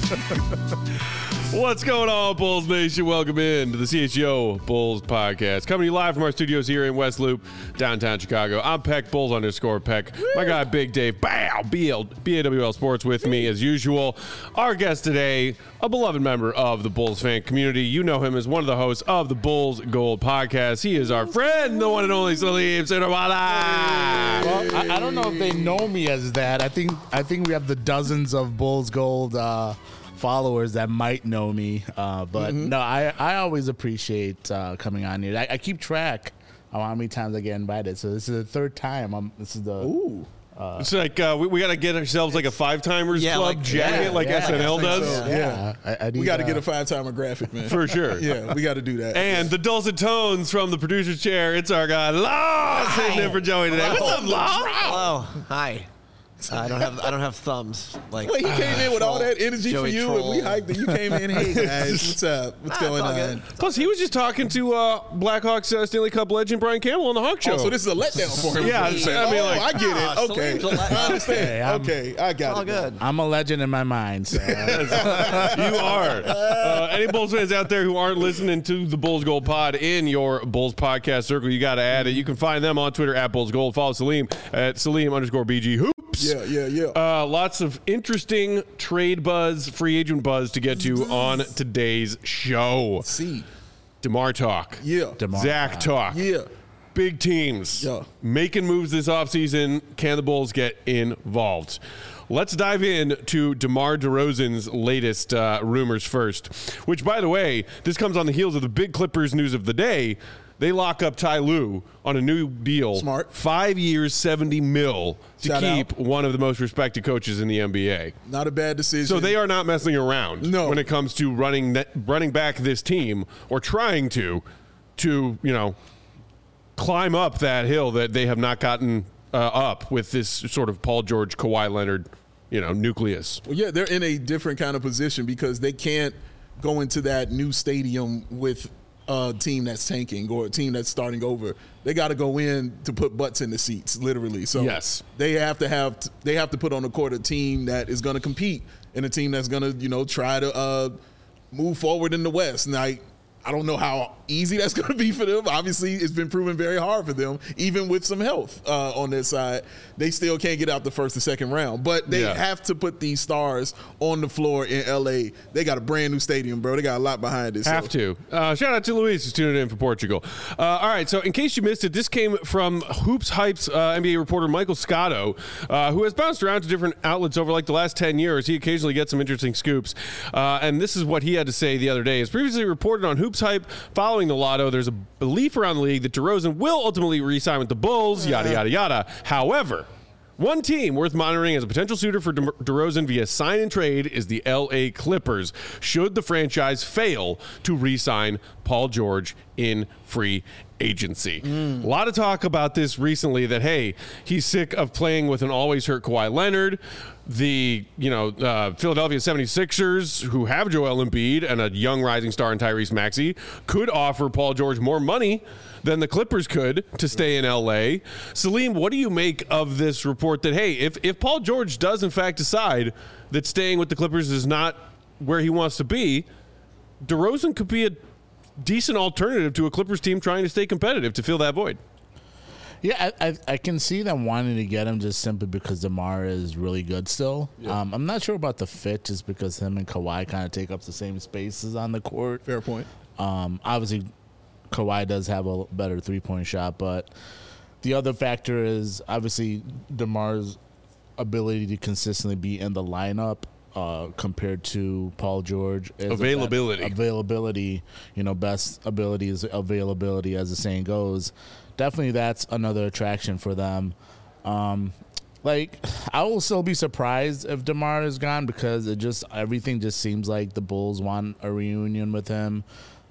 What's going on, Bulls Nation? Welcome in to the CHGO Bulls podcast. Coming to you live from our studios here in West Loop, downtown Chicago. I'm Peck, Bulls_Peck. My guy, Big Dave, BAWL Sports with me as usual. Our guest today, a beloved member of the Bulls fan community. You know him as one of the hosts of the Bulls Gold podcast. He is our friend, the one and only Salim Sinawala. Well, I don't know if they know me as that. I think we have the dozens of Bulls Gold followers that might know me, but no, I always appreciate coming on here. I keep track of how many times I get invited, so this is the third time. It's like we got to get ourselves like a five-timers club jacket like SNL does. So. We got to get a five-timer graphic, man. For sure. Yeah, we got to do that. And the dulcet tones from the producer's chair, it's our guy, Law, sitting in for Joey today. What's up, Law? Hello. Hi. I don't have thumbs. Like Wait, he came in with all that energy Joey for you, Troll. and we hyped it. You came in, hey guys, what's up? What's going all on? good. Plus, he was just talking to Blackhawks Stanley Cup legend Brian Campbell on the Hawk Show. Oh, so this is a letdown for him. Yeah, I mean, like, I get it. Okay, Salim's a letdown. I understand. Hey, I'm- Okay, I got all it. good. I'm a legend in my mind. So. You are. Any Bulls fans out there who aren't listening to the Bulls Gold Pod in your Bulls podcast circle, you got to add it. You can find them on Twitter at Bulls Gold. Follow Salim at Salim_BG Hoops. Yeah. Lots of interesting trade buzz, free agent buzz to get to on today's show. See, DeMar talk. yeah, Zach talk. yeah. Big teams Yeah. making moves this offseason. Can the Bulls get involved? Let's dive in to DeMar DeRozan's latest rumors first, which, by the way, this comes on the heels of the big Clippers news of the day. They lock up Ty Lue on a new deal. Smart. 5 years, $70 million to Shout keep out. one of the most respected coaches in the NBA. Not a bad decision. So they are not messing around when it comes to running back this team or trying to climb up that hill that they have not gotten up with this sort of Paul George, Kawhi Leonard, nucleus. Well, yeah, they're in a different kind of position because they can't go into that new stadium with a team that's tanking or a team that's starting over. They got to go in to put butts in the seats, literally. So yes, they have to put on the court a team that is going to compete and a team that's going to try to move forward in the West. Now, I don't know how easy that's going to be for them. Obviously, it's been proven very hard for them, even with some health on their side. They still can't get out the first or second round. But they have to put these stars on the floor in L.A. They got a brand new stadium, bro. They got a lot behind it. Have to. Shout out to Luis who's tuning in for Portugal. All right, so in case you missed it, this came from Hoops Hype's NBA reporter Michael Scotto, who has bounced around to different outlets over like the last 10 years. He occasionally gets some interesting scoops. And this is what he had to say the other day. As previously reported on Hoops Hype, following the lotto, there's a belief around the league that DeRozan will ultimately re-sign with the Bulls, yada, yada, yada. However, one team worth monitoring as a potential suitor for DeRozan via sign and trade is the LA Clippers, should the franchise fail to re-sign Paul George in free agency. A lot of talk about this recently that, hey, he's sick of playing with an always hurt Kawhi Leonard. The Philadelphia 76ers, who have Joel Embiid and a young rising star in Tyrese Maxey, could offer Paul George more money than the Clippers could to stay in L.A. Salim, what do you make of this report that, hey, if Paul George does in fact decide that staying with the Clippers is not where he wants to be, DeRozan could be a decent alternative to a Clippers team trying to stay competitive to fill that void? Yeah, I can see them wanting to get him just simply because DeMar is really good still. Yeah. I'm not sure about the fit just because him and Kawhi kind of take up the same spaces on the court. Fair point. Obviously, Kawhi does have a better three-point shot, but the other factor is obviously DeMar's ability to consistently be in the lineup compared to Paul George. Availability, best ability is availability, as the saying goes. Definitely that's another attraction for them. I will still be surprised if DeMar is gone because everything just seems like the Bulls want a reunion with him.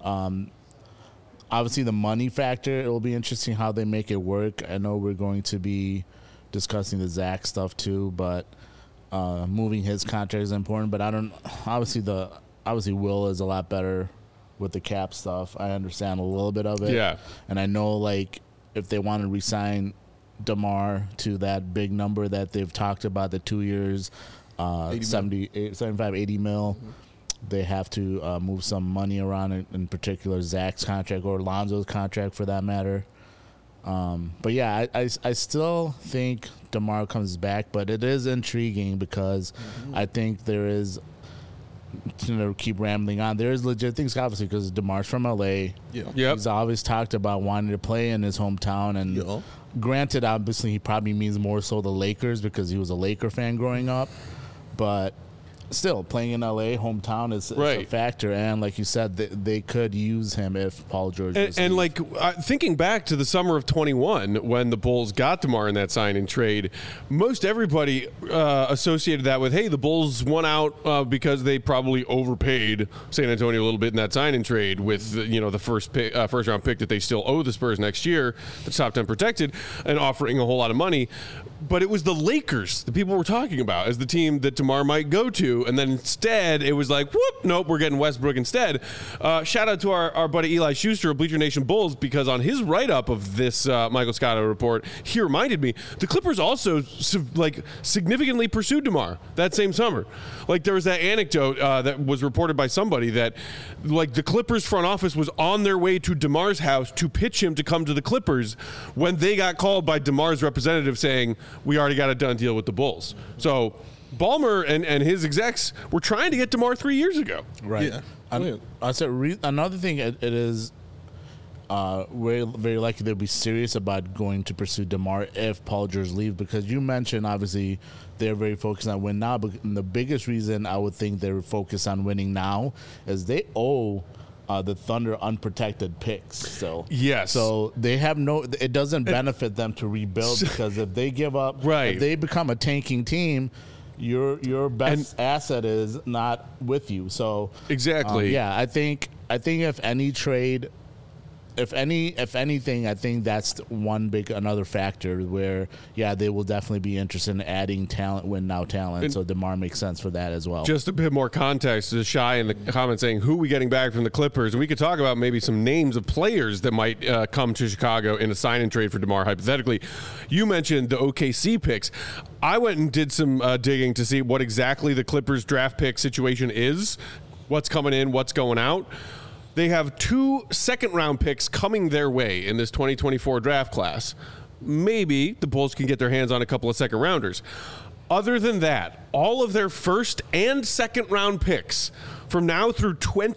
Obviously, the money factor, it will be interesting how they make it work. I know we're going to be discussing the Zach stuff too, but moving his contract is important. But obviously Will is a lot better with the cap stuff. I understand a little bit of it. Yeah. And I know, if they want to re-sign DeMar to that big number that they've talked about, the 2 years, 75, 80 mil. They have to move some money around, in particular Zach's contract or Lonzo's contract for that matter. But yeah, I still think DeMar comes back, but it is intriguing because I think there is, keep rambling on, there is legit things, obviously, because DeMar's from LA. Yep. He's always talked about wanting to play in his hometown, and granted, obviously, he probably means more so the Lakers because he was a Laker fan growing up, but still, playing in LA, hometown is a factor, and like you said, they could use him if Paul George was and like thinking back to the summer of 21 when the Bulls got DeMar in that sign and trade, most everybody associated that with, hey, the Bulls won out because they probably overpaid San Antonio a little bit in that sign and trade with the first round pick that they still owe the Spurs next year, the top 10 protected, and offering a whole lot of money. But it was the Lakers that people were talking about as the team that DeMar might go to. And then instead, it was like, whoop, nope, we're getting Westbrook instead. Shout out to our buddy Eli Schuster of Bleacher Nation Bulls, because on his write-up of this Michael Scotto report, he reminded me the Clippers also significantly pursued DeMar that same summer. Like, there was that anecdote that was reported by somebody that, like, the Clippers front office was on their way to DeMar's house to pitch him to come to the Clippers when they got called by DeMar's representative saying, we already got a done deal with the Bulls. So Ballmer and his execs were trying to get DeMar 3 years ago. Right. Yeah. I said another thing. It is very, very likely they'll be serious about going to pursue DeMar if Paul George leaves, because you mentioned obviously they're very focused on win now. But the biggest reason I would think they're focused on winning now is they owe the Thunder unprotected picks. So yes, so they have it doesn't benefit them to rebuild, because if they give up, if they become a tanking team, your best asset is not with you. So exactly, I think if any trade, if anything, I think that's another factor where they will definitely be interested in adding talent, win now talent. And so DeMar makes sense for that as well. Just a bit more context to Shy in the comments saying, who are we getting back from the Clippers? And we could talk about maybe some names of players that might come to Chicago in a sign and trade for DeMar, hypothetically. You mentioned the OKC picks. I went and did some digging to see what exactly the Clippers draft pick situation is, what's coming in, what's going out. They have 2 second-round picks coming their way in this 2024 draft class. Maybe the Bulls can get their hands on a couple of second-rounders. Other than that, all of their first and second-round picks from now through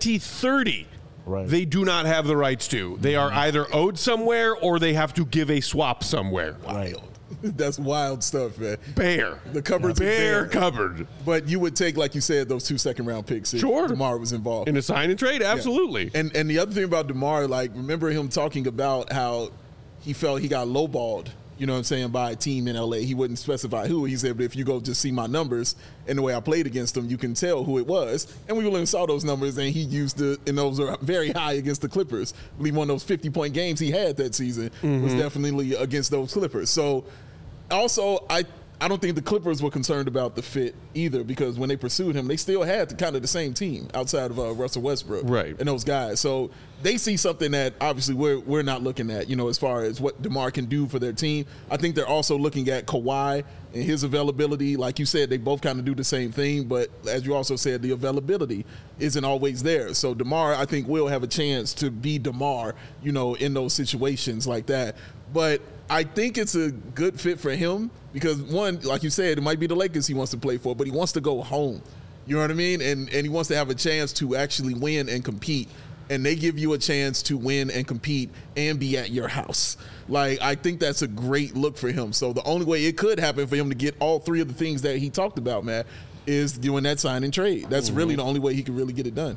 2030, they do not have the rights to. They are either owed somewhere or they have to give a swap somewhere. Wild. That's wild stuff, man. The cupboard's bare cupboard. But you would take, like you said, those 2 second-round picks if DeMar was involved. In a sign and trade, absolutely. Yeah. And the other thing about DeMar, like, remember him talking about how he felt he got lowballed, by a team in L.A. He wouldn't specify who. He said, but if you go just see my numbers and the way I played against them, you can tell who it was. And we really saw those numbers, and he used and those are very high against the Clippers. I believe one of those 50-point games he had that season was definitely against those Clippers. So, also, I don't think the Clippers were concerned about the fit either, because when they pursued him, they still had kind of the same team outside of Russell Westbrook and those guys. So they see something that obviously we're not looking at, as far as what DeMar can do for their team. I think they're also looking at Kawhi and his availability. Like you said, they both kind of do the same thing, but as you also said, the availability isn't always there. So DeMar, I think, will have a chance to be DeMar, in those situations like that. But I think it's a good fit for him because, one, like you said, it might be the Lakers he wants to play for, but he wants to go home. You know what I mean? And he wants to have a chance to actually win and compete. And they give you a chance to win and compete and be at your house. Like, I think that's a great look for him. So the only way it could happen for him to get all 3 of the things that he talked about, man, is doing that sign and trade. That's really the only way he can really get it done.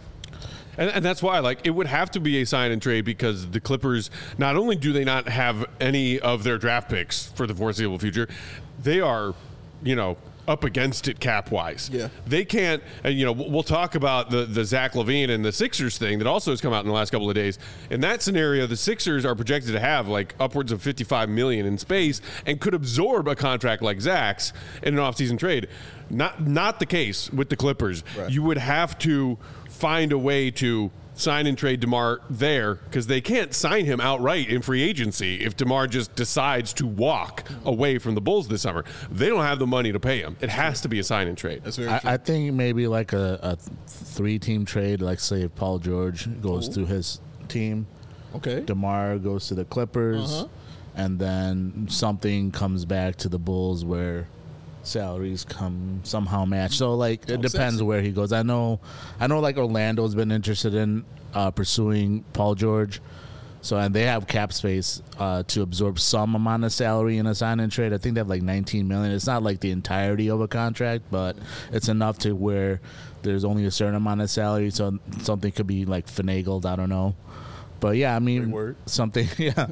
And that's why, like, it would have to be a sign and trade, because the Clippers, not only do they not have any of their draft picks for the foreseeable future, they are, up against it cap-wise. Yeah. They can't, and, we'll talk about the Zach LaVine and the Sixers thing that also has come out in the last couple of days. In that scenario, the Sixers are projected to have, like, upwards of $55 million in space and could absorb a contract like Zach's in an offseason trade. Not the case with the Clippers. Right. You would have to find a way to sign and trade DeMar there because they can't sign him outright in free agency if DeMar just decides to walk away from the Bulls this summer. They don't have the money to pay him. It has to be a sign and trade. That's very true. I think maybe like a 3-team trade, like say if Paul George goes to his team, Okay. DeMar goes to the Clippers, Uh-huh. and then something comes back to the Bulls where salaries come somehow match. So like it depends sexy. where he goes. I know like Orlando's been interested in pursuing Paul George. So and they have cap space to absorb some amount of salary in a sign and trade. I think they have like $19 million. It's not like the entirety of a contract, but it's enough to where there's only a certain amount of salary. So something could be like finagled. I don't know. But yeah, I mean, something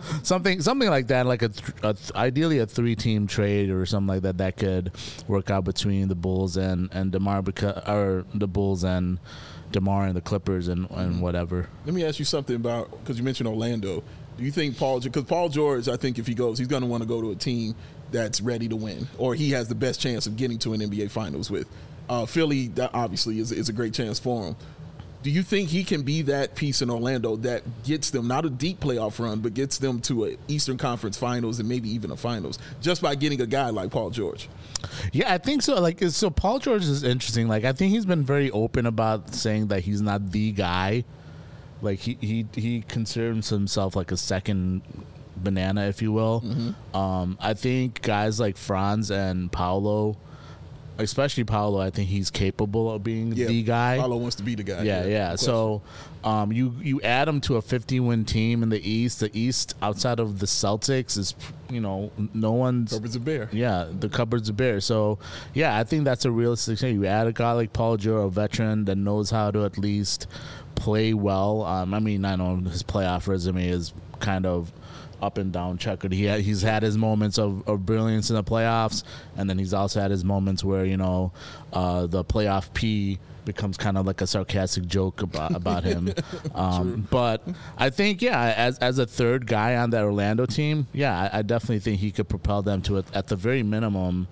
like that, like ideally a 3-team trade or something like that that could work out between the Bulls and DeMar, or the Bulls and DeMar and the Clippers and whatever. Let me ask you something about, because you mentioned Orlando. Do you think because Paul George, I think if he goes, he's going to want to go to a team that's ready to win, or he has the best chance of getting to an NBA Finals with. Philly, that obviously is a great chance for him. Do you think he can be that piece in Orlando that gets them not a deep playoff run, but gets them to an Eastern Conference Finals and maybe even a Finals just by getting a guy like Paul George? Yeah, I think so. Like, so Paul George is interesting. Like, I think he's been very open about saying that he's not the guy. Like, he considers himself like a second banana, if you will. Mm-hmm. I think guys like Franz and Paolo, especially Paolo, I think he's capable of being the guy. Paolo wants to be the guy. Yeah. So you add him to a 50-win team in the East. The East, outside of the Celtics, is, no one's... Cupboard's a bear. Yeah, the cupboard's a bear. So, yeah, I think that's a realistic thing. You add a guy like Paul George, a veteran that knows how to at least play well. I mean, I know his playoff resume is kind of up and down checkered. He's had his moments of brilliance in the playoffs, and then he's also had his moments where the playoff P becomes kind of like a sarcastic joke about him. But I think as a third guy on that Orlando team, I definitely think he could propel them to at the very minimum.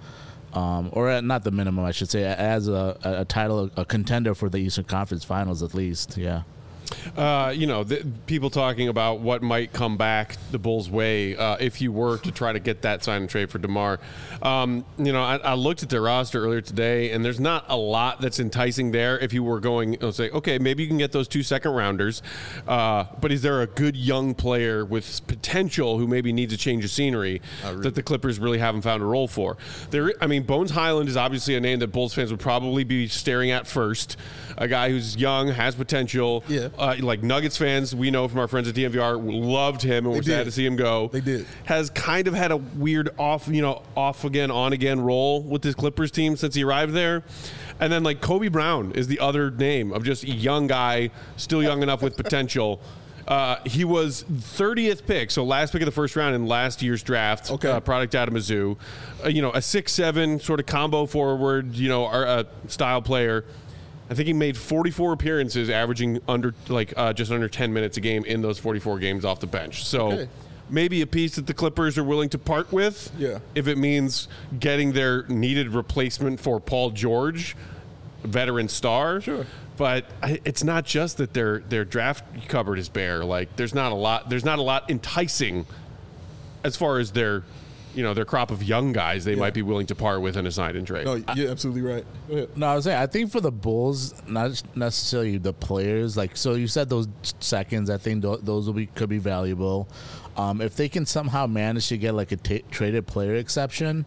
Not the minimum, I should say, as a title, a contender for the Eastern Conference Finals at least. Yeah. People talking about what might come back the Bulls' way if you were to try to get that sign and trade for DeMar. I looked at their roster earlier today, and there's not a lot that's enticing there. If you were going, say, okay, maybe you can get those 2 second-rounders, but is there a good young player with potential who maybe needs a change of scenery that the Clippers really haven't found a role for? Bones Highland is obviously a name that Bulls fans would probably be staring at first. A guy who's young, has potential. Yeah. Like Nuggets fans, we know from our friends at DNVR, loved him and were sad to see him go. They did. Has kind of had a weird off again, on again role with this Clippers team since he arrived there. And then like Kobe Brown is the other name of just a young guy, still young enough with potential. He was 30th pick, so last pick of the first round in last year's draft. Okay. Product out of Mizzou. A 6'7" sort of combo forward, style player. I think he made 44 appearances, averaging just under 10 minutes a game in those 44 games off the bench. So maybe a piece that the Clippers are willing to part with if it means getting their needed replacement for Paul George, veteran star. Sure. But it's not just that their draft cupboard is bare. Like there's not a lot enticing as far as their crop of young guys they might be willing to part with in a sign and trade. No, you're absolutely right. Go ahead. No, I was saying, I think for the Bulls, not necessarily the players. Like, so you said those seconds. I think those could be valuable. If they can somehow manage to get like a traded player exception.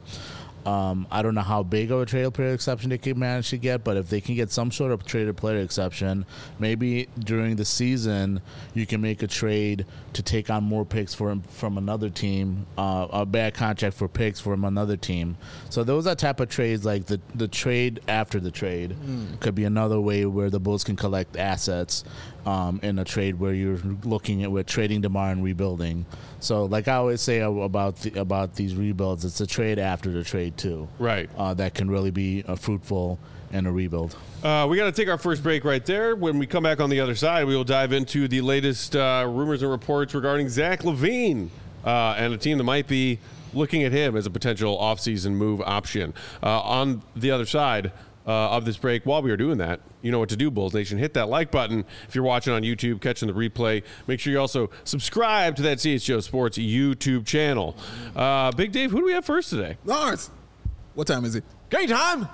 I don't know how big of a traded player exception they can manage to get, but if they can get some sort of traded player exception, maybe during the season you can make a trade to take on more picks from another team, a bad contract for picks from another team. So those are type of trades, like the trade after the trade could be another way where the Bulls can collect assets in a trade where you're looking at trading DeMar and rebuilding. So like I always say about these rebuilds, it's a trade after the trade too. Right. That can really be fruitful in a rebuild. We got to take our first break right there. When we come back on the other side, we will dive into the latest rumors and reports regarding Zach LaVine and a team that might be looking at him as a potential offseason move option. On the other side, of this break. While we are doing that, you know what to do, Bulls Nation. Hit that like button if you're watching on YouTube, catching the replay. Make sure you also subscribe to that CHGO Sports YouTube channel. Big Dave, who do we have first today? Lawrence, what time is it? Game time.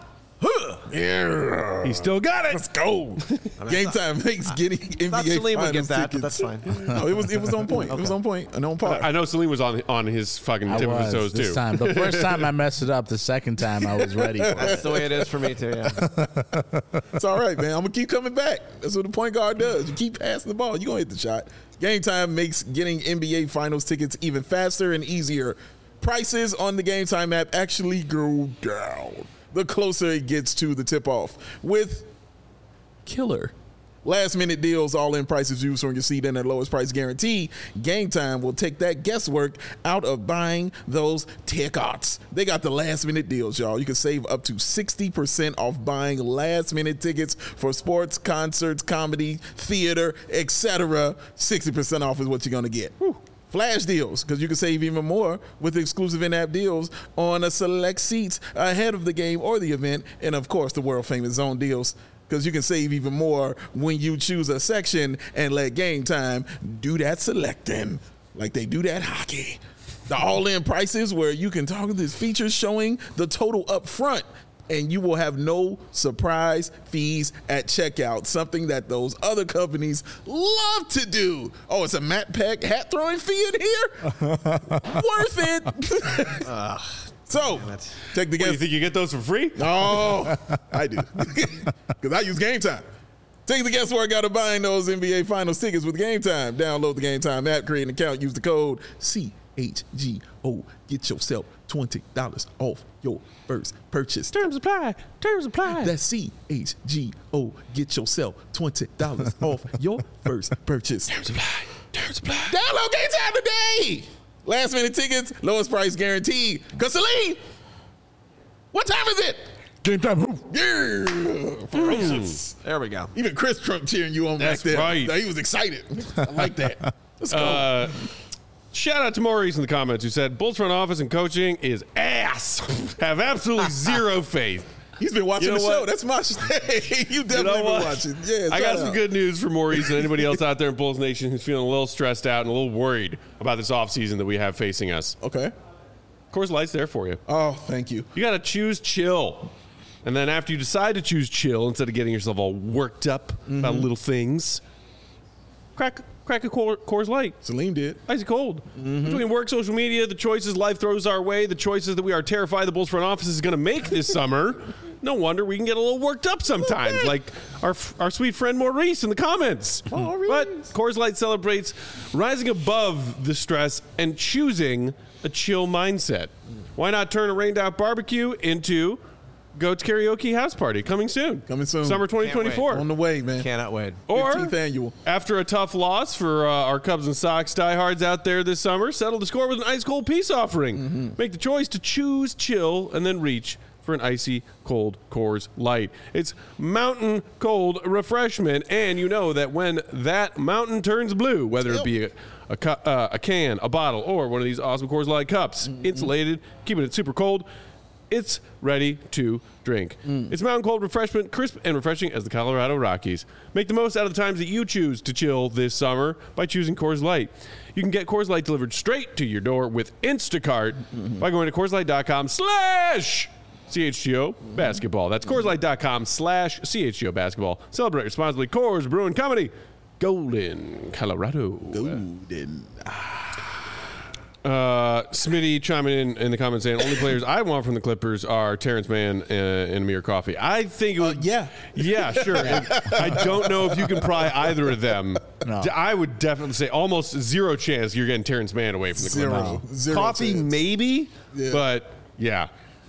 Yeah. He still got it. Let's go. Game time makes getting NBA Thought Salim would get Finals that, but tickets. that's fine. No, it was on point. It was on point and on par. I know Salim was on his fucking tip of his toes, this too. time. The first time I messed it up. The second time I was ready for it. That's the way it is for me too. Yeah. It's all right, man. I'm gonna keep coming back. That's what the point guard does. You keep passing the ball, you're gonna hit the shot. Game time makes getting NBA Finals tickets even faster and easier. Prices on the Game Time app actually go down the closer it gets to the tip-off with killer last-minute deals, all-in prices used from your seat and at lowest price guarantee. Game Time will take that guesswork out of buying those tickets. They got the last-minute deals, y'all. You can save up to 60% off buying last-minute tickets for sports, concerts, comedy, theater, etc. 60% off is what you're going to get. Whew. Flash deals, because you can save even more with exclusive in-app deals on a select seats ahead of the game or the event, and of course the world-famous zone deals, because you can save even more when you choose a section and let Game Time do that selecting like they do that hockey. The all-in prices where you can target these features showing the total up front, and you will have no surprise fees at checkout, something that those other companies love to do. Oh, it's a Matt Peck hat throwing fee in here? Worth it. So, take the guess. You think you get those for free? No, I do. Because I use Game Time. Take the guesswork out of buying those NBA Finals tickets with Game Time. Download the Game Time app, create an account, use the code CHGO. Get yourself $20 off your first purchase. Terms apply. Terms apply. That's CHGO. Get yourself $20 off your first purchase. Terms apply. Terms apply. Download Game Time today. Last minute tickets, lowest price guaranteed. Because Salim, what time is it? Game Time. Yeah. Ferocious. There we go. Even Chris Trump cheering you on That's back there. right. He was excited. I like that. Let's go. Shout out to Maurice in the comments who said Bulls front office and coaching is ass. Have absolutely zero faith. He's been watching You know the what? show. That's my shit. You definitely been watching. Yeah, I got shout some out. good news for Maurice and anybody else out there in Bulls Nation who's feeling a little stressed out and a little worried about this offseason that we have facing us. Okay. Coors Light's there for you. Oh, thank you. You got to choose chill. And then after you decide to choose chill, instead of getting yourself all worked up about little things, crack a Coors Light. Salim did. Icy cold. Between work, social media, the choices life throws our way, the choices that we are terrified the Bulls front office is going to make this summer, no wonder we can get a little worked up sometimes, like our sweet friend Maurice in the comments. Maurice. But Coors Light celebrates rising above the stress and choosing a chill mindset. Why not turn a rained out barbecue into Goat's Karaoke House Party coming soon? Coming soon. Summer 2024. On the way, man. Cannot wait. Or 15th annual. after a tough loss for our Cubs and Sox diehards out there this summer, settle the score with an ice cold peace offering. Make the choice to choose chill and then reach for an icy cold Coors Light. It's mountain cold refreshment, and you know that when that mountain turns blue, whether it be a can, a bottle, or one of these awesome Coors Light cups, insulated, keeping it super cold, it's ready to drink. It's mountain cold refreshment, crisp and refreshing as the Colorado Rockies. Make the most out of the times that you choose to chill this summer by choosing Coors Light. You can get Coors Light delivered straight to your door with Instacart by going to CoorsLight.com/CHGO basketball. That's CoorsLight.com/CHGO basketball. Celebrate responsibly. Coors Brewing Company, Golden, Colorado. Golden. Smitty chiming in the comments saying only players I want from the Clippers are Terrence Mann and Amir Coffey. I think it would, Yeah. sure. And I don't know if you can pry either of them. No. I would definitely say almost zero chance you're getting Terrence Mann away from the Clippers. Zero Coffee chance. maybe, Yeah. but yeah.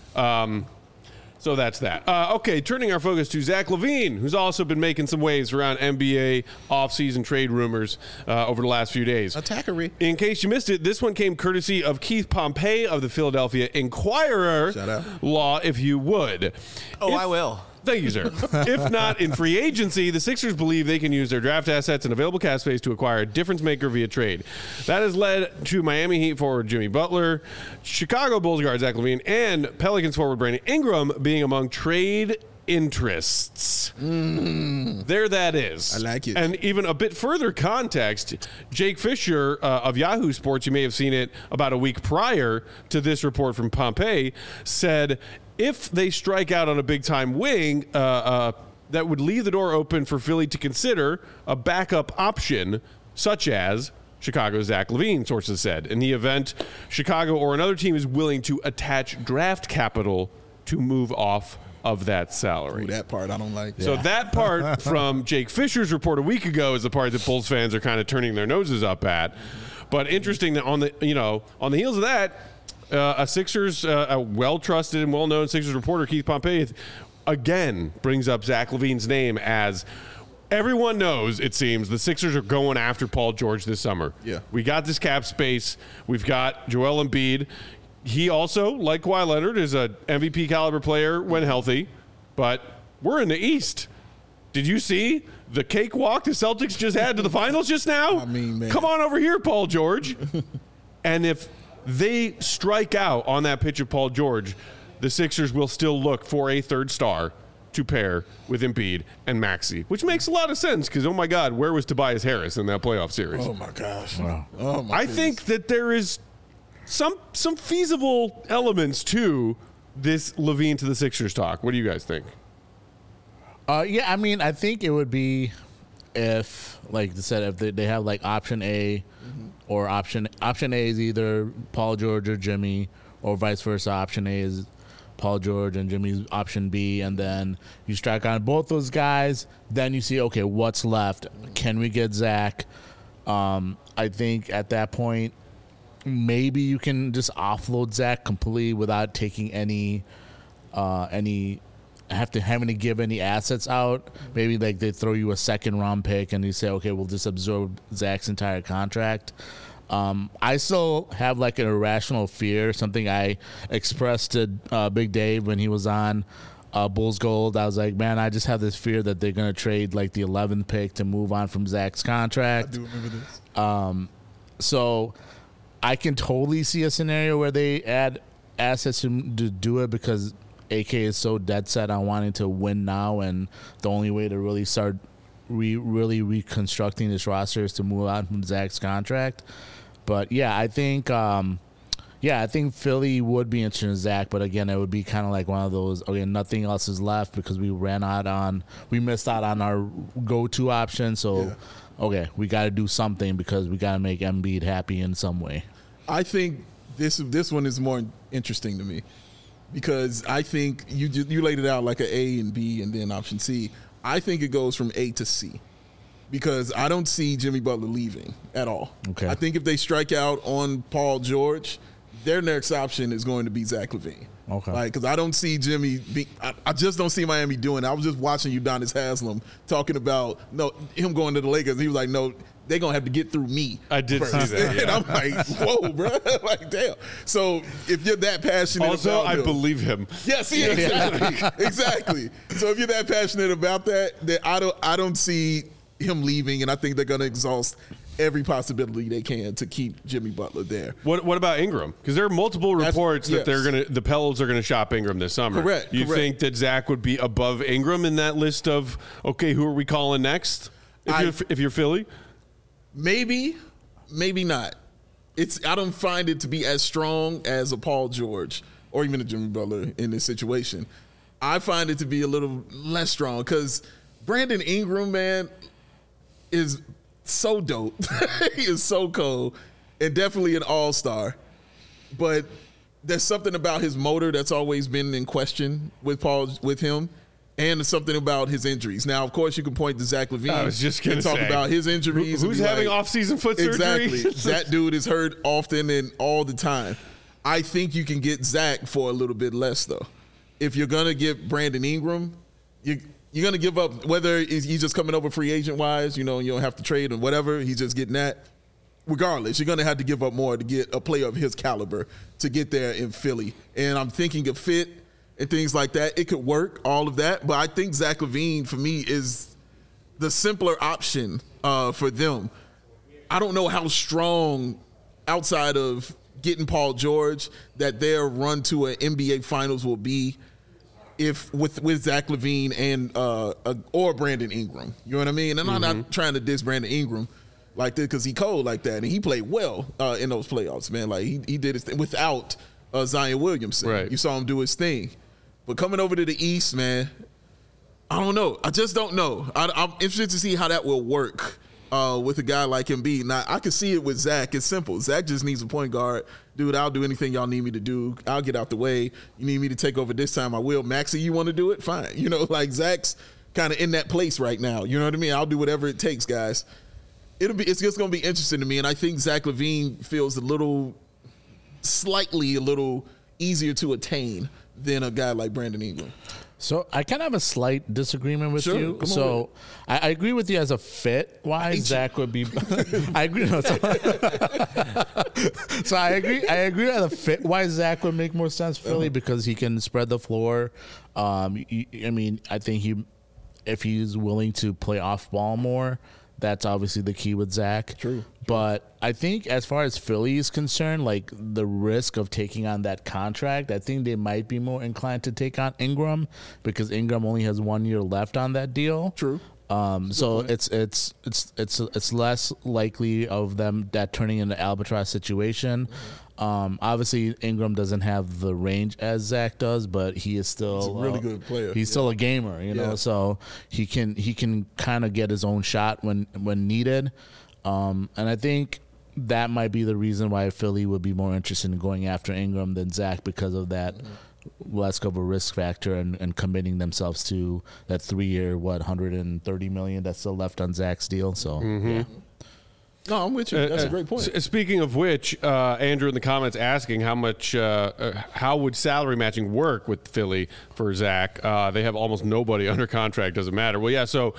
So that's that. Okay, turning our focus to Zach LaVine, who's also been making some waves around NBA offseason trade rumors over the last few days. Attackery. In case you missed it, this one came courtesy of Keith Pompey of the Philadelphia Inquirer. Shout out. Law, if you would. Oh, I will. Thank you, sir. If not in free agency, the Sixers believe they can use their draft assets and available cap space to acquire a difference maker via trade. That has led to Miami Heat forward Jimmy Butler, Chicago Bulls guard Zach LaVine, and Pelicans forward Brandon Ingram being among trade interests. There that is. I like it. And even a bit further context, Jake Fisher of Yahoo Sports, you may have seen it about a week prior to this report from Pompey, said if they strike out on a big-time wing, that would leave the door open for Philly to consider a backup option, such as Chicago's Zach LaVine, sources said. In the event Chicago or another team is willing to attach draft capital to move off of that salary. Ooh, that part I don't like. So that part from Jake Fisher's report a week ago is the part that Bulls fans are kind of turning their noses up at. But interesting that on the heels of that, a Sixers, a well-trusted and well-known Sixers reporter, Keith Pompey, again brings up Zach LaVine's name as everyone knows, it seems, the Sixers are going after Paul George this summer. Yeah. We got this cap space. We've got Joel Embiid. He also, like Kawhi Leonard, is a MVP caliber player when healthy, but we're in the East. Did you see the cakewalk the Celtics just had to the finals just now? I mean, man. Come on over here, Paul George. And if they strike out on that pitch of Paul George, the Sixers will still look for a third star to pair with Embiid and Maxey, which makes a lot of sense because, oh my God, where was Tobias Harris in that playoff series? Oh my gosh. Wow. Oh my I goodness. think that there is some feasible elements to this LaVine to the Sixers talk. What do you guys think? Yeah, I mean, I think it would be if, like I said, if they have like option A or option A is either Paul George or Jimmy, or vice versa. Option A is Paul George and Jimmy's option B, and then you strike on both those guys. Then you see, okay, what's left? Can we get Zach? I think at that point, maybe you can just offload Zach completely without taking any having to give any assets out. Maybe like they throw you a second round pick and you say, okay, we'll just absorb Zach's entire contract. I still have like an irrational fear, something I expressed to Big Dave when he was on Bulls Gold. I was like, man, I just have this fear that they're going to trade like the 11th pick to move on from Zach's contract. I do remember this. So I can totally see a scenario where they add assets to do it because AK is so dead set on wanting to win now, and the only way to really start really reconstructing this roster is to move on from Zach's contract. But yeah, I think Philly would be interested in Zach, but again, it would be kind of like one of those, okay, nothing else is left because we missed out on our go-to option, so okay, we got to do something because we got to make Embiid happy in some way. I think this one is more interesting to me because I think you laid it out like an A and B and then option C. I think it goes from A to C because I don't see Jimmy Butler leaving at all. Okay. I think if they strike out on Paul George, their next option is going to be Zach LaVine. Okay. Like, because I don't see Jimmy I just don't see Miami doing it. I was just watching Udonis Haslem talking about him going to the Lakers. He was like, no, they're going to have to get through me. I did first. see that, yeah. And I'm like, whoa, bro. Like, damn. So if you're that passionate Also, about I him, believe him. yes, yeah, exactly. So if you're that passionate about that, then I don't see him leaving, and I think they're going to exhaust every possibility they can to keep Jimmy Butler there. What about Ingram? Because there are multiple reports that yes. the Pels are gonna shop Ingram this summer. Correct. You think that Zach would be above Ingram in that list of, okay, who are we calling next? If you're Philly, maybe not. I don't find it to be as strong as a Paul George or even a Jimmy Butler in this situation. I find it to be a little less strong because Brandon Ingram, man, is so dope. He is so cold and definitely an all-star. But there's something about his motor that's always been in question with him, and there's something about his injuries. Now, of course, you can point to Zach LaVine. I was just going to talk about his injuries. Who's having off-season foot surgery? Exactly. That dude is hurt often and all the time. I think you can get Zach for a little bit less, though. If you're going to get Brandon Ingram, you're going to give up, whether he's just coming over free agent-wise, you don't have to trade or whatever, he's just getting that. Regardless, you're going to have to give up more to get a player of his caliber to get there in Philly. And I'm thinking of fit and things like that. It could work, all of that. But I think Zach LaVine, for me, is the simpler option for them. I don't know how strong, outside of getting Paul George, that their run to an NBA Finals will be if with Zach LaVine and or Brandon Ingram. You know what I mean? And I'm not trying to diss Brandon Ingram like this because he cold like that, and he played well in those playoffs, man. Like he did his thing without Zion Williamson. Right. You saw him do his thing. But coming over to the East, man, I don't know. I just don't know. I'm interested to see how that will work with a guy like Embiid. Now, I can see it with Zach. It's simple. Zach just needs a point guard. Dude, I'll do anything y'all need me to do. I'll get out the way. You need me to take over this time, I will. Maxey, you want to do it? Fine. You know, like Zach's kind of in that place right now. You know what I mean? I'll do whatever it takes, guys. It's just going to be interesting to me, and I think Zach LaVine feels a little easier to attain than a guy like Brandon Ingram. So I kind of have a slight disagreement with Sure, you. come on So I agree with you as a fit wise. Zach would be. I agree. No, so I agree. I agree as a fit wise. Zach would make more sense for Philly because he can spread the floor. I mean, I think if he's willing to play off ball more, that's obviously the key with Zach. True. But I think as far as Philly is concerned, like the risk of taking on that contract, I think they might be more inclined to take on Ingram because Ingram only has 1 year left on that deal. True. So it's less likely of them that turning into albatross situation. Obviously Ingram doesn't have the range as Zach does, but he is still He's a really good player. He's still a gamer, you know, so he can kind of get his own shot when needed. And I think that might be the reason why Philly would be more interested in going after Ingram than Zach because of that less of a risk factor and committing themselves to that 3 year, $130 million that's still left on Zach's deal. So, yeah. No, I'm with you. That's a great point. Speaking of which, Andrew in the comments asking how would salary matching work with Philly for Zach? They have almost nobody under contract. Doesn't matter. Well, yeah. So,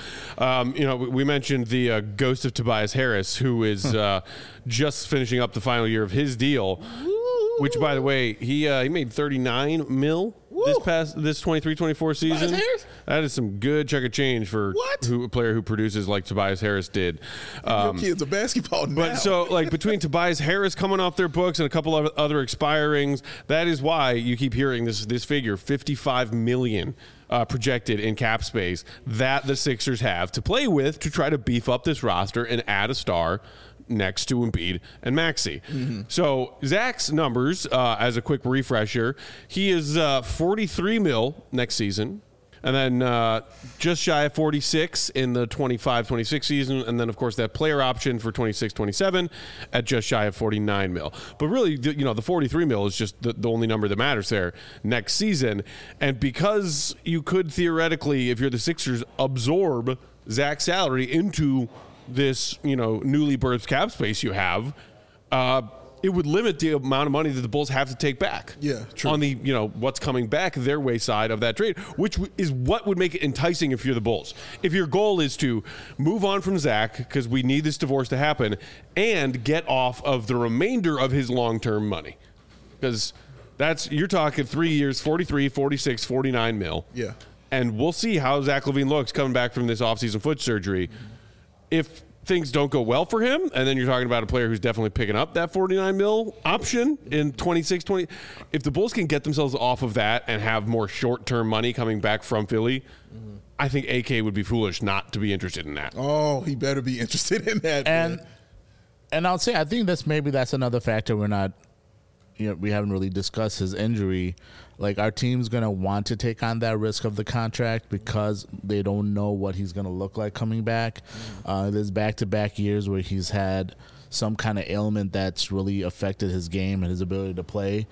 we mentioned the ghost of Tobias Harris, who is just finishing up the final year of his deal. Which, by the way, he made $39 million this 23-24 season. That is some good chunk of change for a player who produces like Tobias Harris did. Your kids are basketball now. But so, like, between Tobias Harris coming off their books and a couple of other expirings, that is why you keep hearing this figure, $55 million projected in cap space that the Sixers have to play with to try to beef up this roster and add a star next to Embiid and Maxey. So Zach's numbers, as a quick refresher, he is $43 million next season, and then just shy of 46 in the 25-26 season, and then of course that player option for 26-27 at just shy of $49 million. But really, the $43 million is just the only number that matters there next season. And because you could theoretically, if you're the Sixers, absorb Zach's salary into this, newly birthed cap space you have, it would limit the amount of money that the Bulls have to take back. Yeah, true. On the, what's coming back their way side of that trade, which is what would make it enticing if you're the Bulls. If your goal is to move on from Zach, because we need this divorce to happen, and get off of the remainder of his long-term money. Because you're talking 3 years, 43, 46, 49 mil. Yeah. And we'll see how Zach LaVine looks coming back from this offseason foot surgery. If things don't go well for him, and then you're talking about a player who's definitely picking up that $49 million option in 26-20. If the Bulls can get themselves off of that and have more short-term money coming back from Philly, I think AK would be foolish not to be interested in that. Oh, he better be interested in that. And man. and I'll say I think that's another factor we're not, we haven't really discussed his injury. Like, our team's going to want to take on that risk of the contract because they don't know what he's going to look like coming back. There's back-to-back years where he's had some kind of ailment that's really affected his game and his ability to play.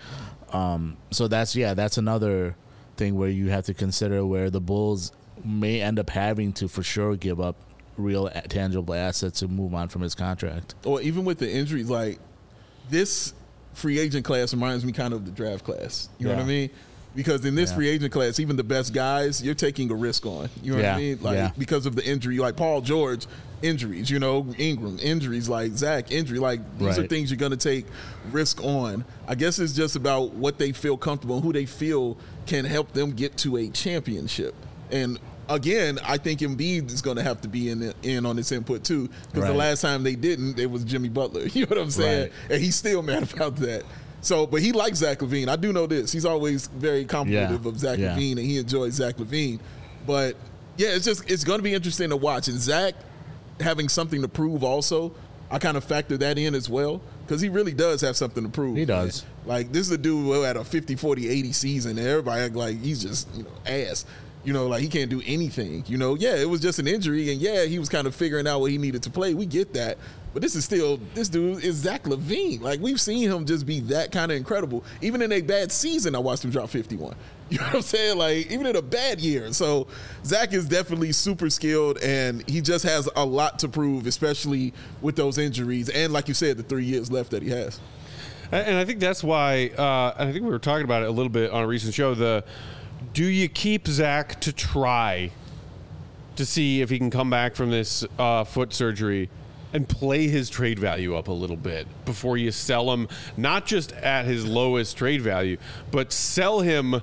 So that's another thing where you have to consider where the Bulls may end up having to for sure give up real tangible assets to move on from his contract. Or even with the injuries, like this free agent class reminds me kind of the draft class. You know what I mean? Because in this free agent class, even the best guys, you're taking a risk on. You know what I mean? Like because of the injury, like Paul George injuries, Ingram injuries, like Zach injury, like these are things you're going to take risk on. I guess it's just about what they feel comfortable and who they feel can help them get to a championship. And again, I think Embiid is going to have to be in on this input too, because the last time they didn't, it was Jimmy Butler. You know what I'm saying? And he's still mad about that. So, but he likes Zach LaVine. I do know this. He's always very complimentary of Zach LaVine, and he enjoys Zach LaVine. But yeah, it's going to be interesting to watch. And Zach having something to prove also, I kind of factor that in as well, because he really does have something to prove. He does. Man. Like, this is a dude who had a 50, 40, 80 season, and everybody act like he's just, ass. Like he can't do anything. Yeah, it was just an injury, and yeah, he was kind of figuring out what he needed to play. We get that. But this dude is Zach LaVine. Like, we've seen him just be that kind of incredible. Even in a bad season, I watched him drop 51. You know what I'm saying? Like, even in a bad year. So, Zach is definitely super skilled, and he just has a lot to prove, especially with those injuries. And like you said, the 3 years left that he has. And I think that's why, I think we were talking about it a little bit on a recent show, do you keep Zach to try to see if he can come back from this foot surgery and play his trade value up a little bit before you sell him, not just at his lowest trade value, but sell him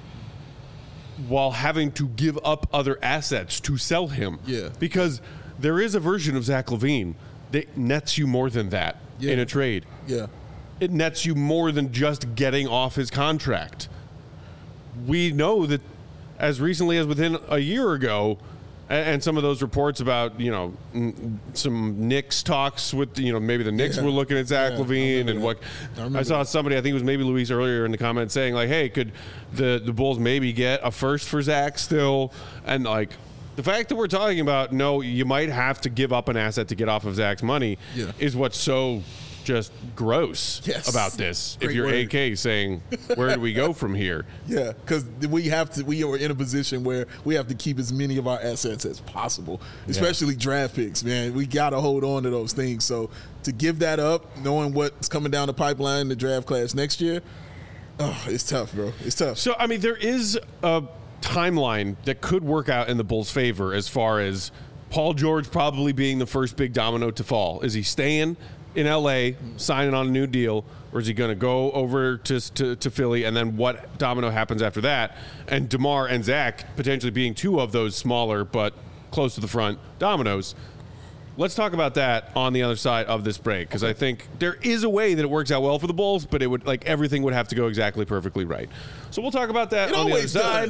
while having to give up other assets to sell him? Yeah. Because there is a version of Zach LaVine that nets you more than that in a trade. Yeah. It nets you more than just getting off his contract. We know that as recently as within a year ago, and some of those reports about, some Knicks talks with, maybe the Knicks were looking at Zach LaVine and what I saw somebody, I think it was maybe Luis earlier in the comments saying like, hey, could the Bulls maybe get a first for Zach still? And like the fact that we're talking about, no, you might have to give up an asset to get off of Zach's money is what's so just gross about this. Great if you're word. AK saying, where do we go from here? Yeah, because we are in a position where we have to keep as many of our assets as possible, especially draft picks, man. We got to hold on to those things. So to give that up, knowing what's coming down the pipeline in the draft class next year, it's tough, bro. It's tough. So, I mean, there is a timeline that could work out in the Bulls' favor as far as Paul George probably being the first big domino to fall. Is he staying in LA, signing on a new deal, or is he going to go over to Philly, and then what domino happens after that? And DeMar and Zach potentially being two of those smaller but close to the front dominoes. Let's talk about that on the other side of this break, because I think there is a way that it works out well for the Bulls, but it would everything would have to go exactly perfectly right. So we'll talk about that on the other side.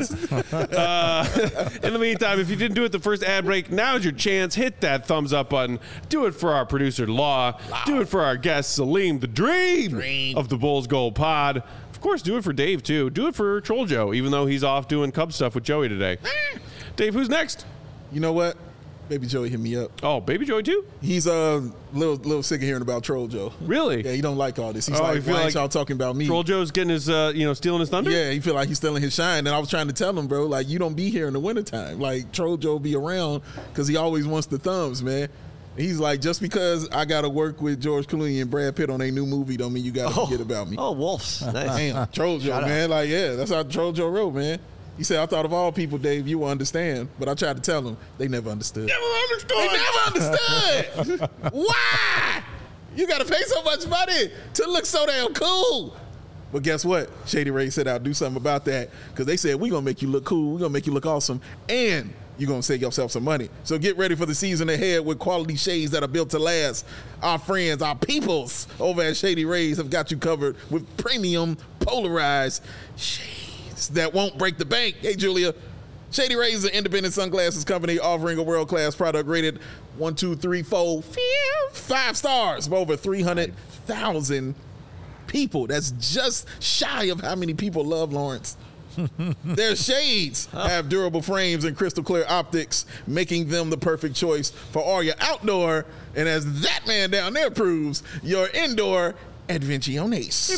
In the meantime, if you didn't do it the first ad break, now's your chance. Hit that thumbs up button. Do it for our producer, Law. Do it for our guest, Salim, the dream of the Bulls Gold Pod. Of course, do it for Dave, too. Do it for Troll Joe, even though he's off doing Cub stuff with Joey today. Dave, who's next? You know what? Baby Joey hit me up. Oh, Baby Joey too? He's a little sick of hearing about Troll Joe. Really? Yeah, he don't like all this. He's like, why ain't y'all talking about me? Troll Joe's getting his, stealing his thunder? Yeah, he feel like he's stealing his shine. And I was trying to tell him, bro, like, you don't be here in the wintertime. Like, Troll Joe be around because he always wants the thumbs, man. And he's like, just because I got to work with George Clooney and Brad Pitt on a new movie don't mean you got to forget about me. Oh, Wolves. Nice. Damn, Troll Joe, man. Like, yeah, that's how Troll Joe wrote, man. He said, I thought of all people, Dave, you will understand. But I tried to tell them. They never understood. They never understood. Why? You got to pay so much money to look so damn cool. But guess what? Shady Ray said, I'll do something about that. Because they said, we're going to make you look cool. We're going to make you look awesome. And you're going to save yourself some money. So get ready for the season ahead with quality shades that are built to last. Our friends, our peoples over at Shady Rays have got you covered with premium polarized shades that won't break the bank. Hey, Julia. Shady Rays is an independent sunglasses company offering a world-class product rated 1, 2, 3, 4, 5 stars by over 300,000 people. That's just shy of how many people love Lawrence. Their shades have durable frames and crystal clear optics, making them the perfect choice for all your outdoor, and as that man down there proves, your indoor adventiones.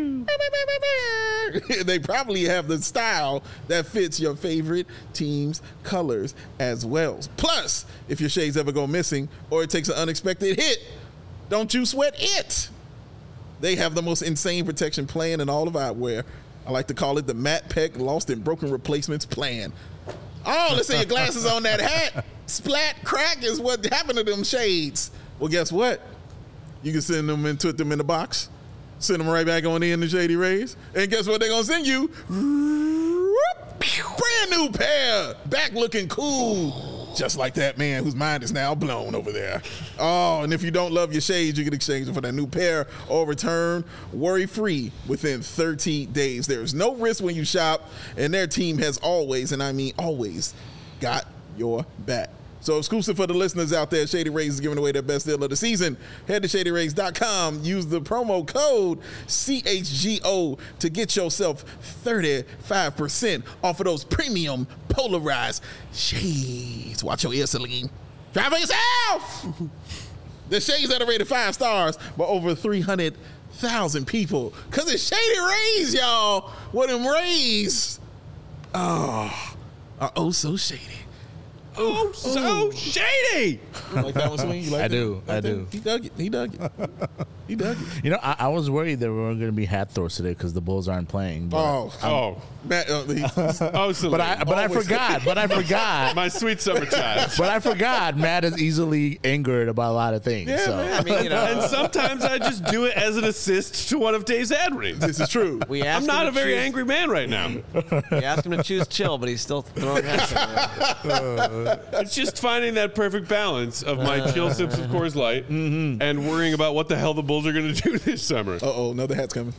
They probably have the style that fits your favorite team's colors as well. Plus, if your shades ever go missing or it takes an unexpected hit, don't you sweat it. They have the most insane protection plan in all of eyewear. I like to call it the Matt Peck Lost and Broken Replacements Plan. Oh, let's say your glasses on that hat. Splat crack is what happened to them shades. Well, guess what? You can send them and put them in the box. Send them right back on in the Shady Rays. And guess what they're going to send you? Brand new pair. Back looking cool. Just like that man whose mind is now blown over there. Oh, and if you don't love your shades, you can exchange them for that new pair or return worry-free within 30 days. There's no risk when you shop, and their team has always, and I mean always, got your back. So exclusive for the listeners out there, Shady Rays is giving away their best deal of the season. Head to ShadyRays.com. Use the promo code CHGO to get yourself 35% off of those premium polarized shades. Watch your ears, Celine. Try for yourself. The shades that are rated 5 stars by over 300,000 people. Because it's Shady Rays, y'all. What them rays are oh so shady. Oh, so shady. You like that one, Swing? You like I that? do. I do. He dug it. He dug it. He dug it. You know, I was worried that we weren't going to be hat throws today because the Bulls aren't playing. But Oh, Matt, Celine. but I forgot. But I forgot. My sweet summer child. But I forgot. Matt is easily angered about a lot of things. Yeah, so. man. I mean, And sometimes I just do it as an assist to one of Dave's ad reads. this is true. we asked I'm not him a to very choose- angry man right now. We asked him to choose chill, but he's still throwing hats around. It's just finding that perfect balance of my chill sips of Coors Light and worrying about what the hell the Bulls are going to do this summer. Uh-oh, another hat's coming.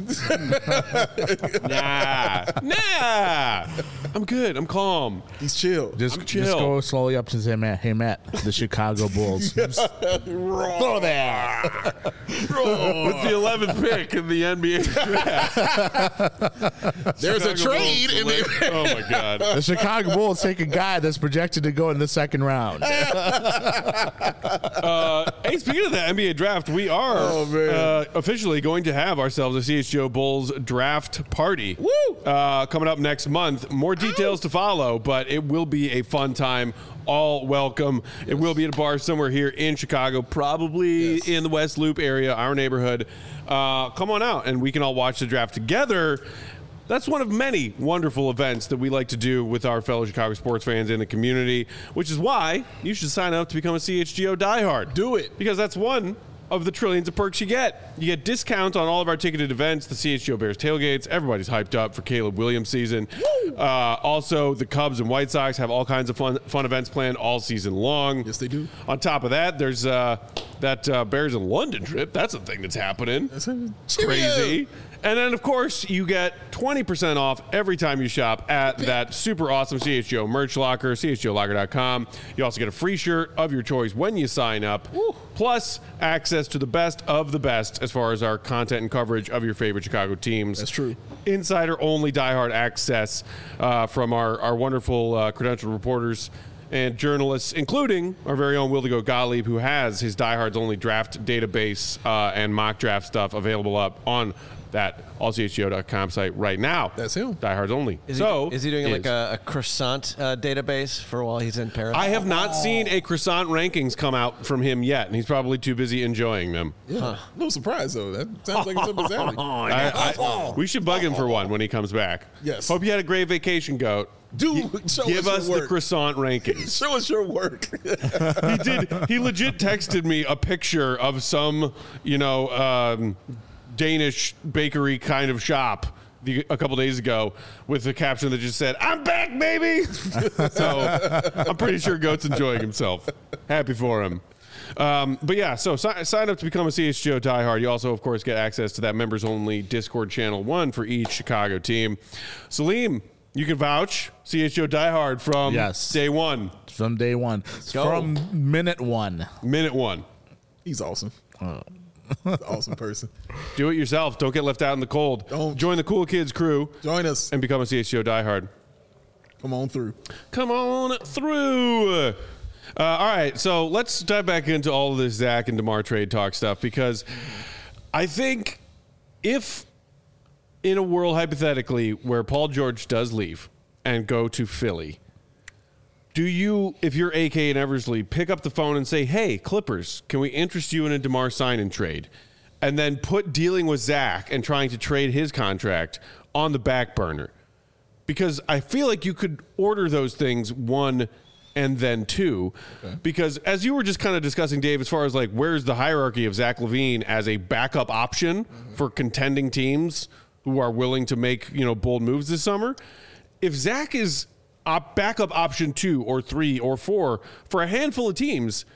Nah. I'm good. I'm calm. He's chill. Just chill. go slowly up to say, hey, Matt, the Chicago Bulls. Throw there. With the 11th pick in the NBA draft. There's a Chicago trade Bulls in there. select- Oh, my God. The Chicago Bulls take a guy that's projected to go in the second round. Hey, speaking of the NBA draft, we are officially going to have ourselves a CHGO Bulls draft party. Woo! Coming up next month. More details to follow, but it will be a fun time. All welcome. It will be at a bar somewhere here in Chicago, probably in the West Loop area, our neighborhood. Come on out, and we can all watch the draft together. That's one of many wonderful events that we like to do with our fellow Chicago sports fans in the community, which is why you should sign up to become a CHGO diehard. Do it. Because that's one of the trillions of perks you get. You get discounts on all of our ticketed events, the CHGO Bears tailgates. Everybody's hyped up for Caleb Williams season. Also, the Cubs and White Sox have all kinds of fun events planned all season long. Yes, they do. On top of that, there's that Bears in London trip. That's a thing that's happening. Crazy. And then, of course, you get 20% off every time you shop at that super awesome CHGO merch locker, chgolocker.com. You also get a free shirt of your choice when you sign up, plus access to the best of the best as far as our content and coverage of your favorite Chicago teams. That's true. Insider-only diehard access from our wonderful credentialed reporters and journalists, including our very own Wildigo Gottlieb, who has his Diehards Only draft database and mock draft stuff available up on that allchgo.com site right now. That's him. Diehards Only. Is he doing like a croissant database for while he's in Paris? I have not seen a croissant rankings come out from him yet, and he's probably too busy enjoying them. Yeah. A little surprised, though. That sounds like it's up his alley. We should bug him for one when he comes back. Yes. Hope you had a great vacation, Goat. Dude, show Give us us your the work. croissant rankings. Show us your work. He did. He legit texted me a picture of some, Danish bakery kind of shop a couple days ago with a caption that just said, "I'm back, baby." So I'm pretty sure Goat's enjoying himself. Happy for him. But yeah, so sign up to become a CHGO diehard. You also, of course, get access to that members-only Discord channel, one for each Chicago team. Salim, you can vouch CHGO diehard from day one. From day one. From minute one. Minute one. He's awesome. He's an awesome person. Do it yourself. Don't get left out in the cold. Don't. Join the Cool Kids crew Join us. and become a CHGO diehard. Come on through. Come on through. All right, so let's dive back into all of this Zach and DeMar trade talk stuff, because I think if in a world hypothetically where Paul George does leave and go to Philly, do you, if you're AK and Eversley, pick up the phone and say, "Hey, Clippers, can we interest you in a DeMar sign and trade?" And then put dealing with Zach and trying to trade his contract on the back burner? Because I feel like you could order those things, one and then two. Okay. Because as you were just kind of discussing, Dave, as far as like where's the hierarchy of Zach LaVine as a backup option for contending teams who are willing to make, bold moves this summer. If Zach is backup option 2 or 3 or 4 for a handful of teams.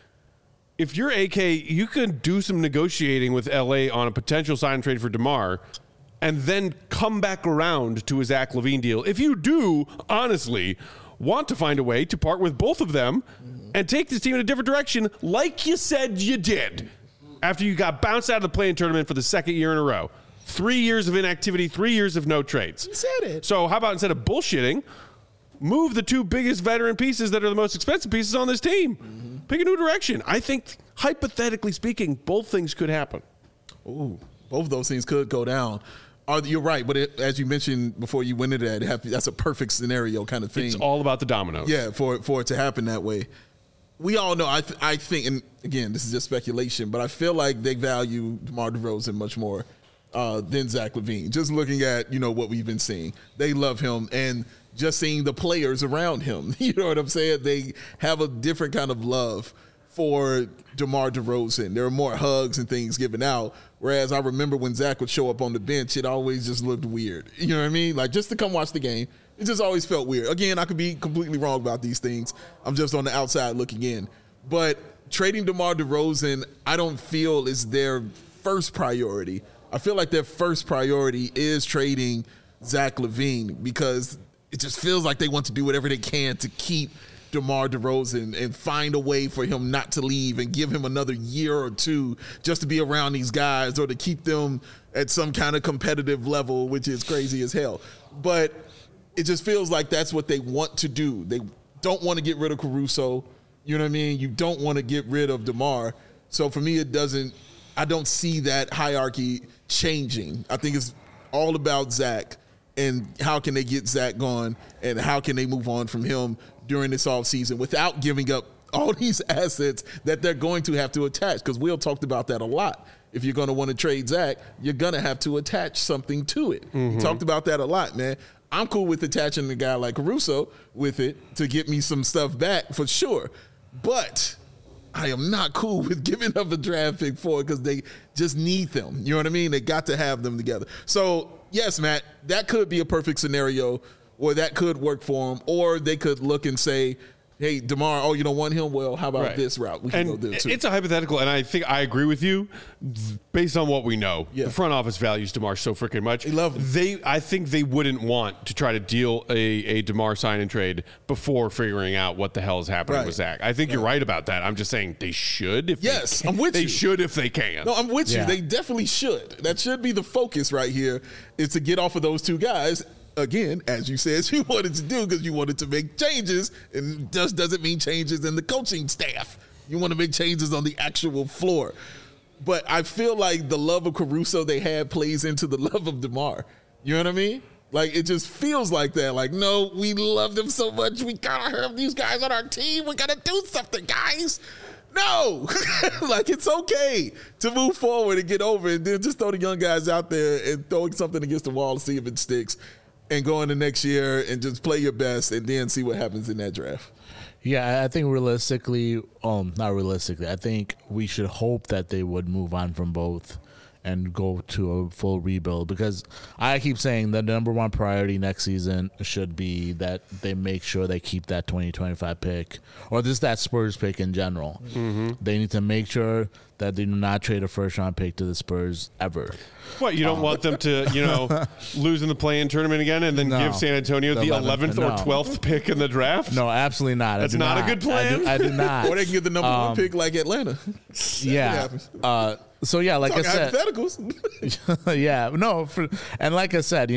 If you're AK, you can do some negotiating with LA on a potential sign and trade for DeMar and then come back around to a Zach LaVine deal. If you do, honestly, want to find a way to part with both of them and take this team in a different direction like you said you did after you got bounced out of the play-in tournament for the second year in a row. 3 years of inactivity, 3 years of no trades. You said it. So how about instead of bullshitting, move the 2 biggest veteran pieces that are the most expensive pieces on this team. Pick a new direction. I think, hypothetically speaking, both things could happen. Ooh, both of those things could go down. You're right, but as you mentioned before you went into that, that's a perfect scenario kind of thing. It's all about the dominoes. Yeah, for it to happen that way. We all know, I think, and again, this is just speculation, but I feel like they value DeMar DeRozan much more than Zach LaVine. Just looking at, what we've been seeing. They love him, and just seeing the players around him. You know what I'm saying? They have a different kind of love for DeMar DeRozan. There are more hugs and things given out. Whereas I remember when Zach would show up on the bench, it always just looked weird. You know what I mean? Like, just to come watch the game, it just always felt weird. Again, I could be completely wrong about these things. I'm just on the outside looking in. But trading DeMar DeRozan, I don't feel is their first priority. I feel like their first priority is trading Zach LaVine because it just feels like they want to do whatever they can to keep DeMar DeRozan and find a way for him not to leave and give him another year or two just to be around these guys or to keep them at some kind of competitive level, which is crazy as hell. But it just feels like that's what they want to do. They don't want to get rid of Caruso. You know what I mean? You don't want to get rid of DeMar. So for me, I don't see that hierarchy changing. I think it's all about Zach and how can they get Zach gone and how can they move on from him during this offseason without giving up all these assets that they're going to have to attach. Because Will talked about that a lot. If you're going to want to trade Zach, you're going to have to attach something to it. He talked about that a lot, man. I'm cool with attaching a guy like Caruso with it to get me some stuff back for sure. But I am not cool with giving up a draft pick for it because they just need them. You know what I mean? They got to have them together. So, yes, Matt, that could be a perfect scenario or that could work for them. Or they could look and say, hey, DeMar, you don't want him? Well, how about this route? We can go there too. It's a hypothetical, and I think I agree with you based on what we know. Yeah. The front office values DeMar so freaking much. They love him. I think they wouldn't want to try to deal a DeMar sign and trade before figuring out what the hell is happening with Zach. I think you're right about that. I'm just saying they should. I'm with you. They should if they can. No, I'm with you. They definitely should. That should be the focus right here, is to get off of those two guys. Again, as you said, you wanted to do because you wanted to make changes, and just doesn't mean changes in the coaching staff. You want to make changes on the actual floor. But I feel like the love of Caruso they had plays into the love of DeMar. You know what I mean? Like, it just feels like that. Like, no, we love them so much. We got to have these guys on our team. We got to do something, guys. No. Like, it's okay to move forward and get over it, and then just throw the young guys out there and throwing something against the wall to see if it sticks. And go into next year and just play your best and then see what happens in that draft. Yeah, I think realistically, not realistically, I think we should hope that they would move on from both and go to a full rebuild, because I keep saying the number one priority next season should be that they make sure they keep that 2025 pick, or just that Spurs pick in general. They need to make sure that they do not trade a first-round pick to the Spurs ever. What, you don't want them to, lose in the play-in tournament again and then give San Antonio the 11th or 12th pick in the draft? No, absolutely not. That's not a good plan? I do not. Or they can get the number one pick like Atlanta. Yeah. So, yeah, like I said. Hypotheticals. Yeah. No. And like I said,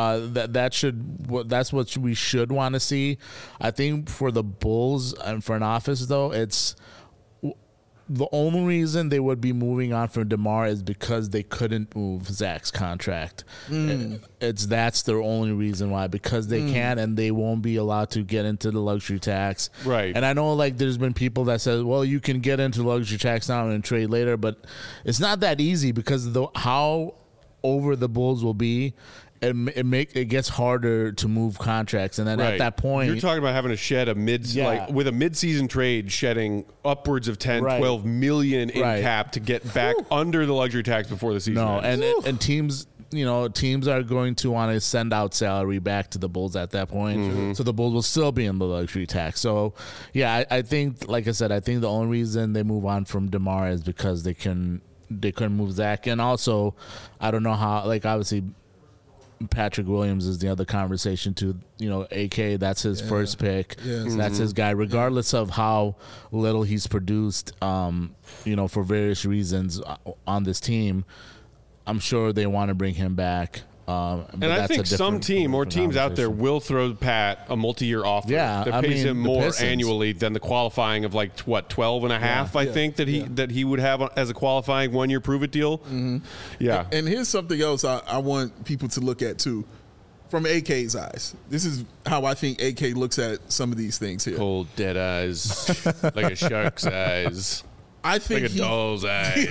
that's what we should want to see. I think for the Bulls and for an office, though, it's the only reason they would be moving on from DeMar is because they couldn't move Zach's contract. That's their only reason why, because they can't, and they won't be allowed to get into the luxury tax. Right. And I know, there's been people that said, well, you can get into luxury tax now and trade later, but it's not that easy because of how over the Bulls will be. It gets harder to move contracts, and then at that point, you're talking about having to shed with a mid-season trade, shedding upwards of 10, 12 million in cap to get back under the luxury tax before the season ends. And teams teams are going to want to send out salary back to the Bulls at that point. So the Bulls will still be in the luxury tax. So, yeah, I think, like I said, I think the only reason they move on from DeMar is because they couldn't move Zach. And also, I don't know how, like, obviously, Patrick Williams is the other conversation too. AK, that's his first pick. That's his guy, regardless of how little he's produced, for various reasons on this team. I'm sure they want to bring him back. And I think some team or teams out there will throw Pat a multi-year offer that pays him more annually than the qualifying of 12 and a half, I think that he would have as a qualifying 1-year prove-it deal. Yeah. And here's something else I want people to look at too. From AK's eyes. This is how I think AK looks at some of these things here. Cold, dead eyes, like a shark's eyes. I think like a doll's eyes.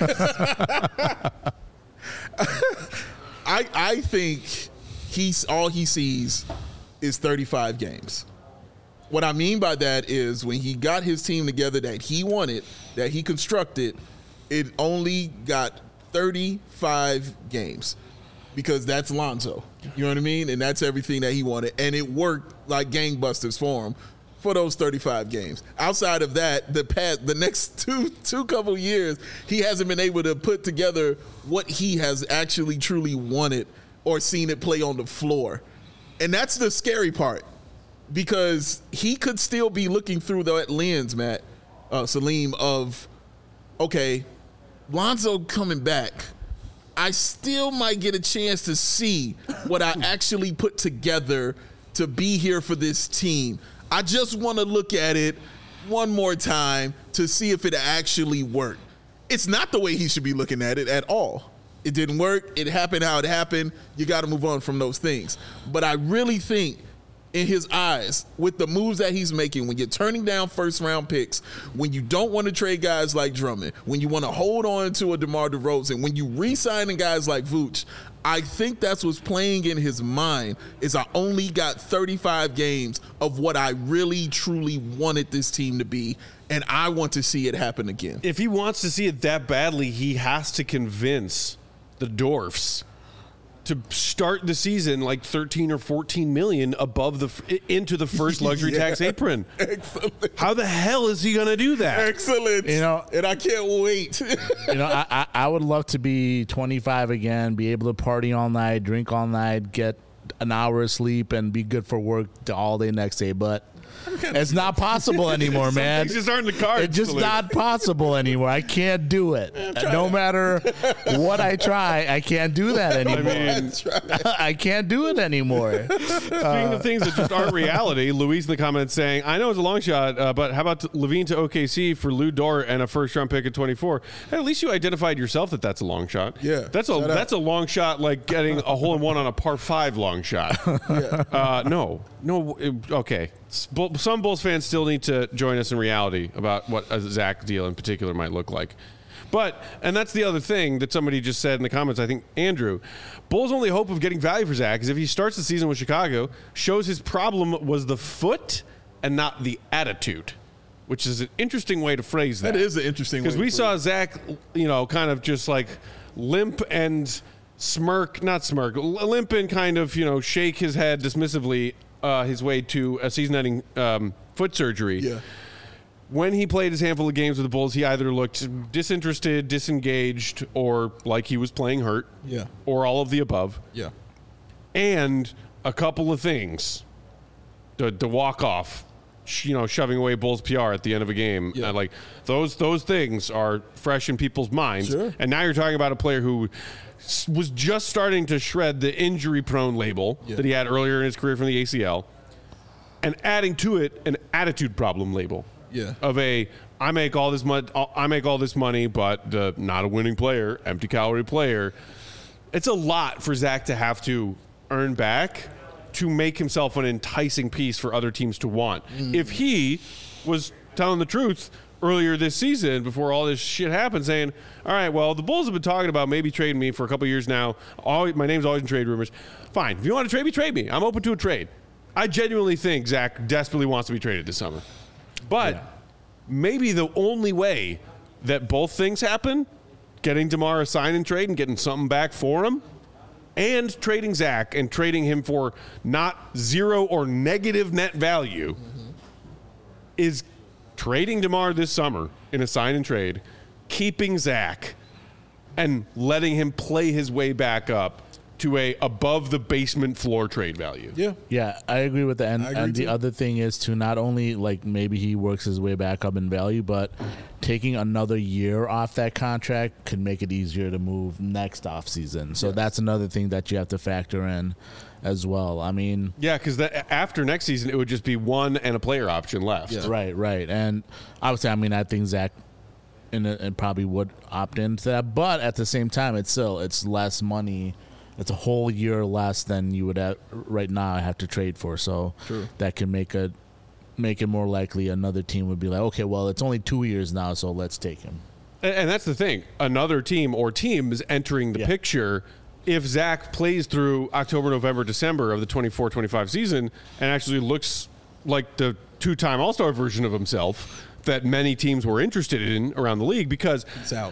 I think all he sees is 35 games. What I mean by that is when he got his team together that he wanted, that he constructed, it only got 35 games because that's Lonzo. You know what I mean? And that's everything that he wanted. And it worked like gangbusters for him for those 35 games. Outside of that, the next two couple of years, he hasn't been able to put together what he has actually truly wanted or seen it play on the floor. And that's the scary part because he could still be looking through that lens, Salim, of, okay, Lonzo coming back, I still might get a chance to see what I actually put together to be here for this team. I just want to look at it one more time to see if it actually worked. It's not the way he should be looking at it at all. It didn't work. It happened how it happened. You got to move on from those things. But I really think in his eyes, with the moves that he's making, when you're turning down first-round picks, when you don't want to trade guys like Drummond, when you want to hold on to a DeMar DeRozan, when you re-signing guys like Vooch, I think that's what's playing in his mind is I only got 35 games of what I really, truly wanted this team to be, and I want to see it happen again. If he wants to see it that badly, he has to convince the Dwarfs to start the season like 13 or 14 million above into the first luxury tax apron. Excellent. How the hell is he going to do that? Excellent. And I can't wait. I would love to be 25 again, be able to party all night, drink all night, get an hour of sleep, and be good for work all day next day. But it's not possible anymore, man. Things just aren't in the cards. It's just not possible anymore. I can't do it. No matter what I try, I can't do that anymore. I can't do it anymore. Speaking of things that just aren't reality, Luis in the comments saying, I know it's a long shot, but how about Levine to OKC for Lou Dort and a first-round pick at 24? Hey, at least you identified yourself that's a long shot. Yeah. That's a long shot like getting a hole-in-one on a par 5 long shot. Yeah. No. Okay. Some Bulls fans still need to join us in reality about what a Zach deal in particular might look like. And that's the other thing that somebody just said in the comments, I think, Andrew. Bulls' only hope of getting value for Zach is if he starts the season with Chicago, shows his problem was the foot and not the attitude, which is an interesting way to phrase that. That is an interesting way. Because we saw Zach, kind of just like limp and limp and kind of, shake his head dismissively his way to a season-ending foot surgery. Yeah. When he played his handful of games with the Bulls, he either looked disinterested, disengaged, or like he was playing hurt. Yeah. Or all of the above. Yeah. And a couple of things. The walk-off, shoving away Bulls PR at the end of a game. Yeah. Like those things are fresh in people's minds. Sure. And now you're talking about a player who was just starting to shred the injury-prone label that he had earlier in his career from the ACL, and adding to it an attitude problem label. Yeah. Of I make all this money, but not a winning player, empty calorie player. It's a lot for Zach to have to earn back to make himself an enticing piece for other teams to want. If he was telling the truth earlier this season before all this shit happened, saying, all right, well, the Bulls have been talking about maybe trading me for a couple of years now. My name's always in trade rumors. Fine. If you want to trade me, trade me. I'm open to a trade. I genuinely think Zach desperately wants to be traded this summer. But maybe the only way that both things happen, getting DeMar a sign and trade and getting something back for him, and trading Zach and trading him for not zero or negative net value is trading DeMar this summer in a sign and trade, keeping Zach, and letting him play his way back up to a above the basement floor trade value. Yeah, I agree with that. And the too. other thing is to not only like maybe he works his way back up in value, but taking another year off that contract could make it easier to move next offseason. So that's another thing that you have to factor in as well. I mean, Yeah, because after next season, it would just be one and a player option left. Yeah. right. And obviously, I mean, I think Zach and probably would opt into that. But at the same time, it's less money. It's a whole year less than you would right now have to trade for. So that can make it more likely another team would be like, okay, well, it's only 2 years now, so let's take him. And that's the thing. Another team or teams entering the picture if Zach plays through October, November, December of the 24-25 season and actually looks like the two-time All-Star version of himself that many teams were interested in around the league, because It's out.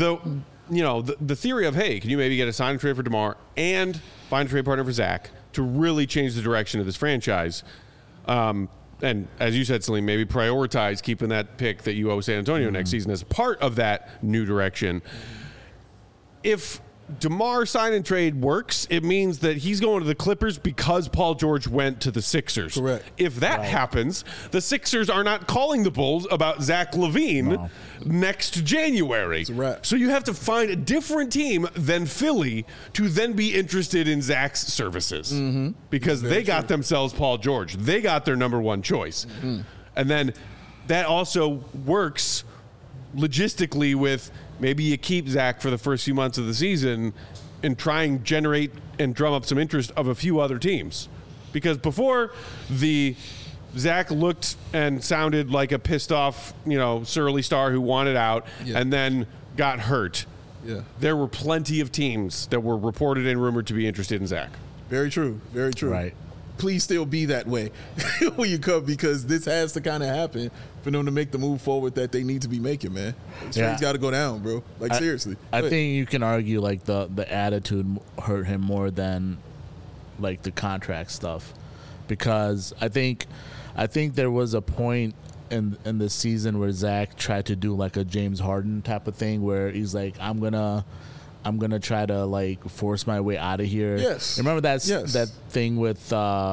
The theory of, hey, can you maybe get a sign and trade for DeMar and find a trade partner for Zach to really change the direction of this franchise? And as you said, Salim, maybe prioritize keeping that pick that you owe San Antonio next season as part of that new direction. If DeMar sign and trade works, it means that he's going to the Clippers because Paul George went to the Sixers. Correct. If that happens, the Sixers are not calling the Bulls about Zach LaVine next January. It's a wrap. So you have to find a different team than Philly to then be interested in Zach's services because they got themselves Paul George. They got their number one choice. And then that also works logistically with maybe you keep Zach for the first few months of the season and try and generate and drum up some interest of a few other teams. Because before the Zach looked and sounded like a pissed off, surly star who wanted out and then got hurt. Yeah. There were plenty of teams that were reported and rumored to be interested in Zach. Very true. Very true. Right. Please still be that way when you come, because this has to kind of happen for them to make the move forward that they need to be making, man. Trade's got to go down, bro. Seriously. I think you can argue like the attitude hurt him more than like the contract stuff, because I think there was a point in the season where Zach tried to do like a James Harden type of thing where he's like, I'm gonna try to like force my way out of here. Yes. Remember that Yes. thing with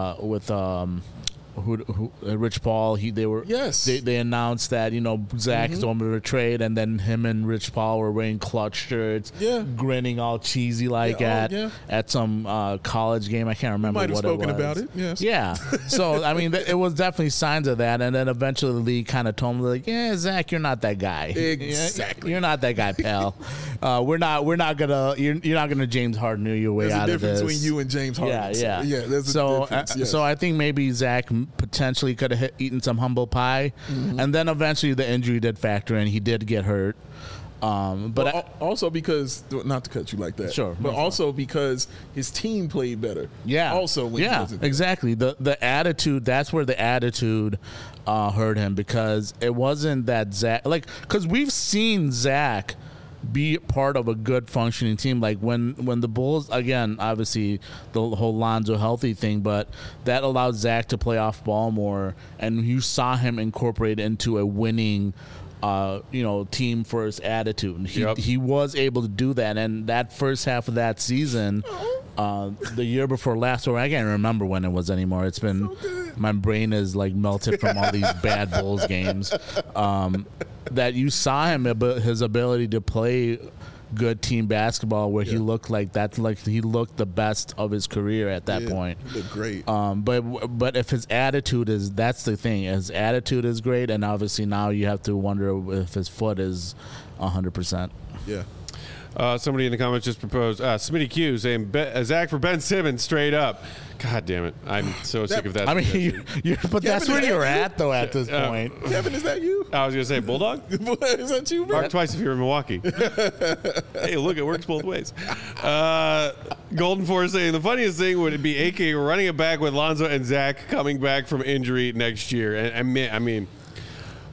Rich Paul? They announced that Zach's on the trade, and then him and Rich Paul were wearing clutch shirts, grinning all cheesy like at some college game. I can't remember might have what spoken it was. about it. Yes. Yeah. So I mean, it was definitely signs of that, and then eventually the league kind of told him like, "Yeah, Zach, you're not that guy. Exactly. You're not that guy, pal. You're not gonna James Harden your way There's out a of this." difference between you and James Harden. Yeah. There's a difference. Yes. So I think maybe Zach potentially could have eaten some humble pie, and then eventually the injury did factor in. He did get hurt. But also because, not to cut you like that, Sure, but no, also because his team played better. Also, when he wasn't there. exactly. The attitude, that's where the attitude hurt him, because it wasn't that Zach, because we've seen Zach be part of a good functioning team. Like when the Bulls, again, obviously the whole Lonzo healthy thing, but that allowed Zach to play off ball more, and you saw him incorporate into a winning team first attitude. And he was able to do that, and that first half of that season, the year before last, or I can't remember when it was anymore. It's been my brain is like melted from all these bad Bulls games. That you saw him, his ability to play good team basketball, where he looked he looked the best of his career at that point. He looked great. But if his attitude that's the thing. His attitude is great, and obviously now you have to wonder if his foot is 100%. Yeah. Somebody in the comments just proposed Smitty Q saying Zach for Ben Simmons straight up. God damn it! I'm so sick of that. I mean, but that's where you're at though at this point. Kevin, is that you? I was gonna say Bulldog. Is that you, bro? Mark twice if you're in Milwaukee. Hey, look, it works both ways. Golden Force saying the funniest thing would be AK running it back with Lonzo and Zach coming back from injury next year. And I mean,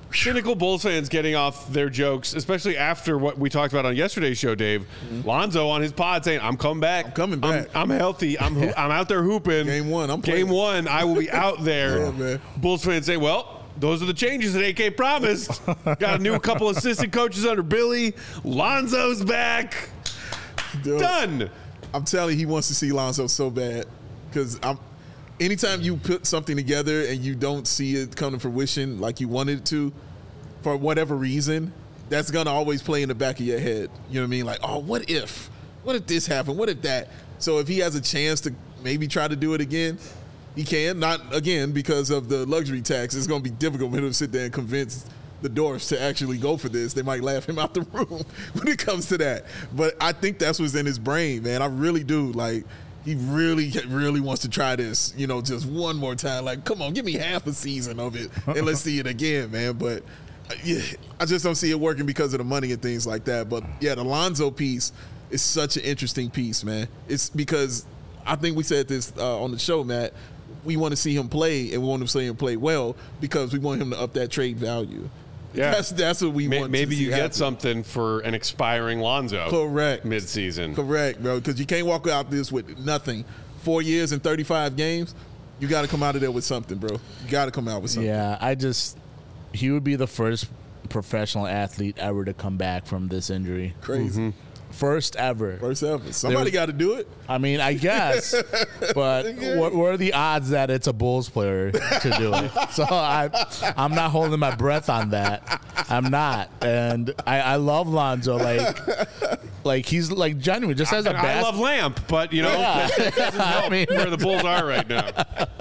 cynical Bulls fans getting off their jokes, especially after what we talked about on yesterday's show, Dave. Lonzo on his pod saying, I'm coming back. I'm coming back. I'm healthy. I'm out there hooping. Game one, I'm Game playing. one, I will be out there. Yeah, man. Bulls fans say, well, those are the changes that AK promised. Got a new couple assistant coaches under Billy. Lonzo's back. Dude, Done. I'm telling you, he wants to see Lonzo so bad because anytime you put something together and you don't see it come to fruition like you wanted it to, for whatever reason, that's gonna always play in the back of your head. You know what I mean? Like, oh, what if this happened? What if that? So if he has a chance to maybe try to do it again, he can. Not again because of the luxury tax. It's gonna be difficult for him to sit there and convince the Dwarfs to actually go for this. They might laugh him out the room when it comes to that. But I think that's what's in his brain, man. I really do. Like, he really, really wants to try this, just one more time. Like, come on, give me half a season of it and let's see it again, man. But yeah, I just don't see it working because of the money and things like that. But yeah, the Lonzo piece is such an interesting piece, man. It's because I think we said this on the show, Matt. We want to see him play, and we want to see him play well because we want him to up that trade value. Yeah. That's what we want. Maybe to you see get happen. something for an expiring Lonzo. Correct. Mid-season. Correct, bro. Because you can't walk out this with nothing. 4 years and 35 games. You got to come out of there with something, bro. You got to come out with something. Yeah, he would be the first professional athlete ever to come back from this injury. Crazy. First ever. First ever. Somebody got to do it. I mean, I guess, but what are the odds that it's a Bulls player to do it? So I'm not holding my breath on that. I'm not, and I love Lonzo. Like he's like genuine, just as a I love Lamp, but that doesn't help I mean- where the Bulls are right now.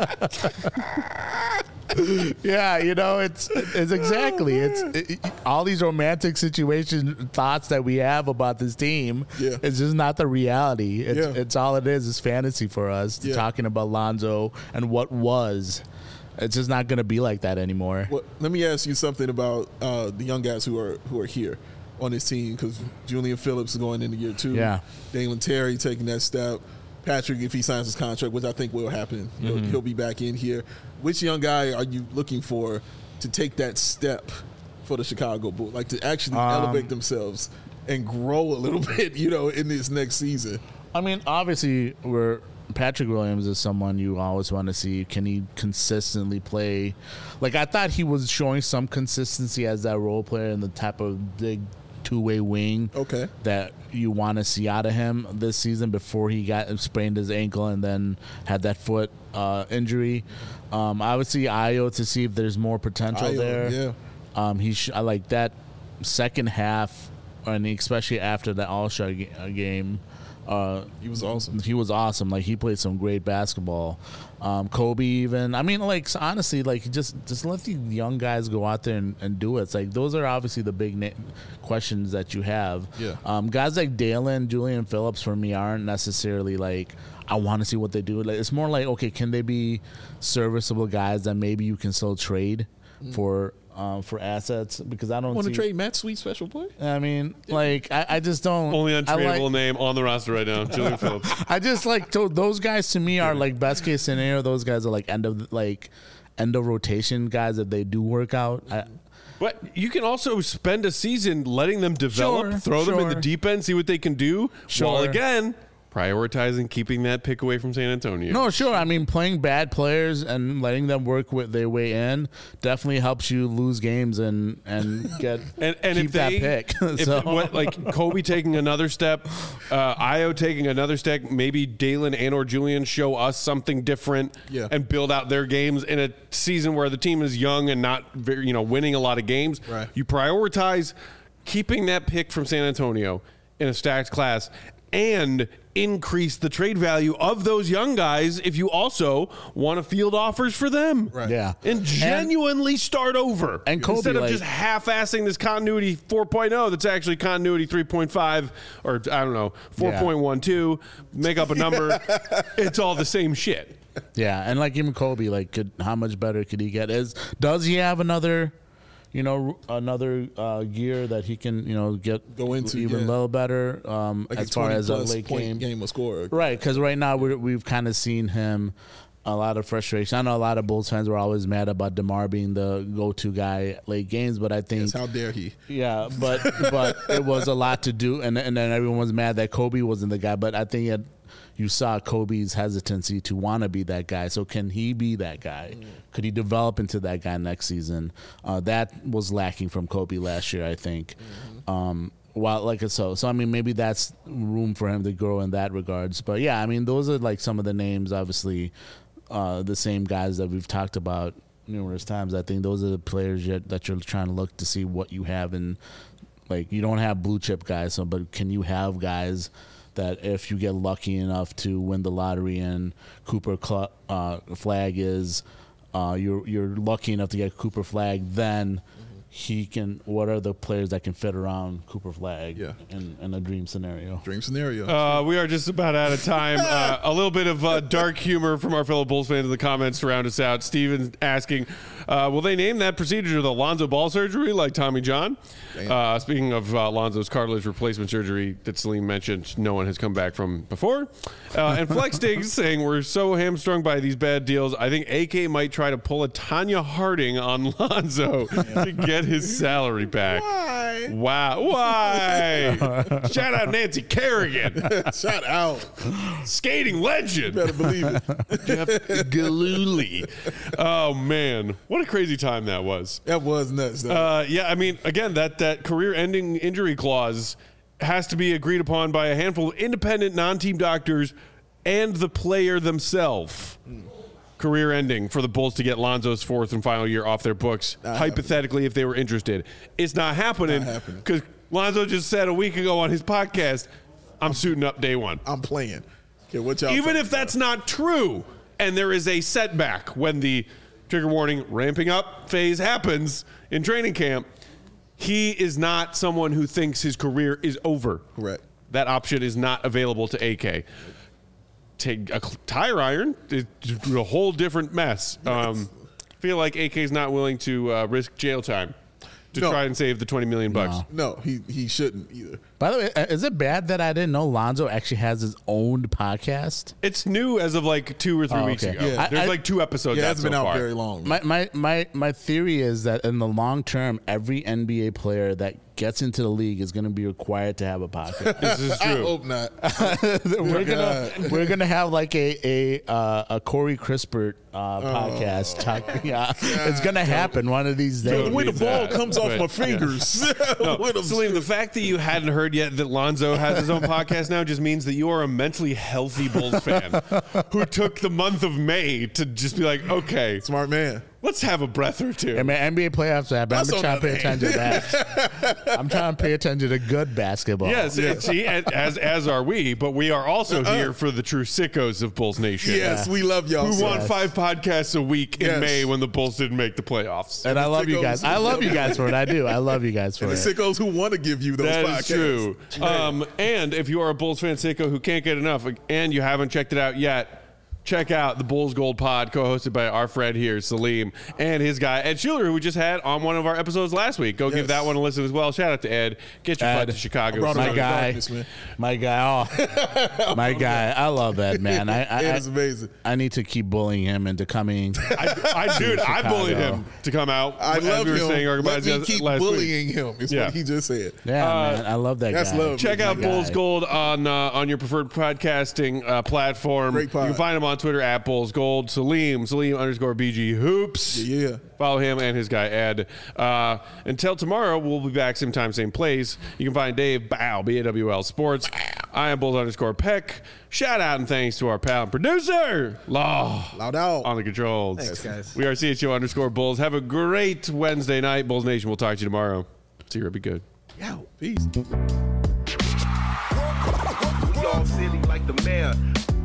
Yeah, it's exactly all these romantic situation thoughts that we have about this team. Yeah. It's just not the reality. It's all it is. It's fantasy for us. Yeah. Talking about Lonzo and what was. It's just not going to be like that anymore. Well, let me ask you something about the young guys who are here on this team, because Julian Phillips is going into year 2. Yeah. Dalen Terry taking that step. Patrick, if he signs his contract, which I think will happen, he'll be back in here. Which young guy are you looking for to take that step for the Chicago Bulls, like to actually elevate themselves and grow a little bit, in this next season? I mean, obviously, Patrick Williams is someone you always want to see. Can he consistently play? Like, I thought he was showing some consistency as that role player and the type of big two-way wing that you want to see out of him this season before he sprained his ankle and then had that foot injury. I would see Ayo to see if there's more potential there. Yeah. I like that second half, and especially after the All-Star game. He was awesome. He was awesome. Like, he played some great basketball. Kobe even. I mean, like, honestly, like, just let the young guys go out there and do it. It's like, those are obviously the big questions that you have. Yeah. Guys like Dalen, Julian Phillips, for me, aren't necessarily like, I want to see what they do. Like, it's more like, okay, can they be serviceable guys that maybe you can still trade for assets? Because I don't Want to see, trade Matt Sweet, special boy? I mean, like, I just don't. Only I untradeable like- name on the roster right now, Julian Phillips. I just like those guys to me are like best case scenario. Those guys are like end of rotation guys if they do work out. But you can also spend a season letting them develop, Sure, throw them in the sure. deep end, see what they can do, while Sure. again prioritizing keeping that pick away from San Antonio. No, sure. I mean, playing bad players and letting them work with their way in definitely helps you lose games and get and keep if that they, pick. if So- like Kobe taking another step, Ayo taking another step, maybe Dalen and or Julian show us something different and build out their games in a season where the team is young and not very, winning a lot of games. Right. You prioritize keeping that pick from San Antonio in a stacked class and increase the trade value of those young guys if you also want to field offers for them. Right. Yeah. And genuinely start over. And Kobe, instead of like- just half-assing this continuity 4.0 that's actually continuity 3.5 or I don't know, 4.12, make up a number. It's all the same shit. Yeah, and like even Kobe, like, how much better could he get? Does he have another gear that he can, Go into, even a yeah. little better Like as a far 20 as a plus late point game or scorer. Right, because right now we've kind of seen him a lot of frustration. I know a lot of Bulls fans were always mad about DeMar being the go-to guy at late games, but I think Yes, how dare he? yeah, but it was a lot to do, and then everyone was mad that Kobe wasn't the guy. But I think you saw Kobe's hesitancy to want to be that guy. So can he be that guy? Could he develop into that guy next season? That was lacking from Kobe last year, I think. So I mean, maybe that's room for him to grow in that regards. But yeah, I mean, those are like some of the names, obviously, the same guys that we've talked about numerous times. I think those are the players that you're trying to look to see what you have in. Like, you don't have blue chip guys, but can you have guys that if you get lucky enough to win the lottery and Cooper Flag is, you're lucky enough to get Cooper Flag, then he can. What are the players that can fit around Cooper Flag? Yeah. in a dream scenario. Dream scenario. We are just about out of time. A little bit of dark humor from our fellow Bulls fans in the comments to round us out. Steven asking, will they name that procedure the Lonzo Ball surgery like Tommy John? Speaking of Lonzo's cartilage replacement surgery that Salim mentioned, no one has come back from before. And Flex Diggs saying, we're so hamstrung by these bad deals, I think AK might try to pull a Tanya Harding on Lonzo to get his salary back. Why? Wow. Why? Shout out Nancy Kerrigan. Shout out. Skating legend. Better believe it. Jeff Gillooly. Oh, man. What a crazy time that was. That was nuts, though. Yeah, I mean, again, that career-ending injury clause has to be agreed upon by a handful of independent non-team doctors and the player themselves. Career ending for the Bulls to get Lonzo's fourth and final year off their books, hypothetically, if they were interested. It's not happening because Lonzo just said a week ago on his podcast, I'm suiting up day one. I'm playing. Okay, what y'all Even if that's not true and there is a setback when the trigger warning ramping up phase happens in training camp, he is not someone who thinks his career is over. Correct. That option is not available to AK. Take a tire iron, it's a whole different mess. Feel like AK's not willing to risk jail time to try and save the $20 million bucks. No, he shouldn't either. By the way, is it bad that I didn't know Lonzo actually has his own podcast? It's new as of like 2 or 3 weeks okay. ago. Yeah. There's like 2 episodes. Yeah, it out hasn't so been out far. very long. My theory is that in the long term, every NBA player that gets into the league is going to be required to have a podcast. This is I true. hope not. we're gonna have like a Corey Crispert podcast. Yeah, it's gonna happen one of these days. The way the ball that, comes off but, my fingers. Salim, the fact that you hadn't heard yet that Lonzo has his own podcast now just means that you are a mentally healthy Bulls fan who took the month of May to just be like, okay, Smart man. let's have a breath or two. I mean, NBA playoffs happen. I'm That's trying to pay on attention to that. I'm trying to pay attention to good basketball. Yes, see, as are we, but we are also here for the true sickos of Bulls Nation. Yes, we love y'all. Who so want much. 5 podcasts a week in Yes. May when the Bulls didn't make the playoffs? And I love you guys. I love you guys for it. I do. I love you guys for The it. sickos who want to give you those That podcasts. is true. And if you are a Bulls fan sicko who can't get enough and you haven't checked it out yet, check out the Bulls Gold Pod, co-hosted by our friend here, Salim, and his guy, Ed Schuler, who we just had on one of our episodes last week. Go give that one a listen as well. Shout out to Ed. Get your butt to Chicago. brought him My out of guy. darkness, man. My guy. Oh, my guy. I love that, man. It is amazing. I need to keep bullying him into coming. I bullied him to come out. I as love we were him. saying our Let me goodbyes keep last week. bullying him. Is Yeah. what he just said. Yeah, man. I love that that's guy. love. Check out My Bulls guy. Gold on your preferred podcasting platform. Great pod. You can find him on Twitter at Bulls Gold. Salim_BG Hoops. Yeah. Follow him and his guy Ed. Until tomorrow, we'll be back same time, same place. You can find Dave Bow, BAWL Sports. I am Bulls_Peck. Shout out and thanks to our pal and producer, Law. Loud out. On the controls. Thanks, guys. We are CHO_Bulls. Have a great Wednesday night. Bulls Nation, we'll talk to you tomorrow. See you. Be good. Yo, peace. Y'all silly like the mayor.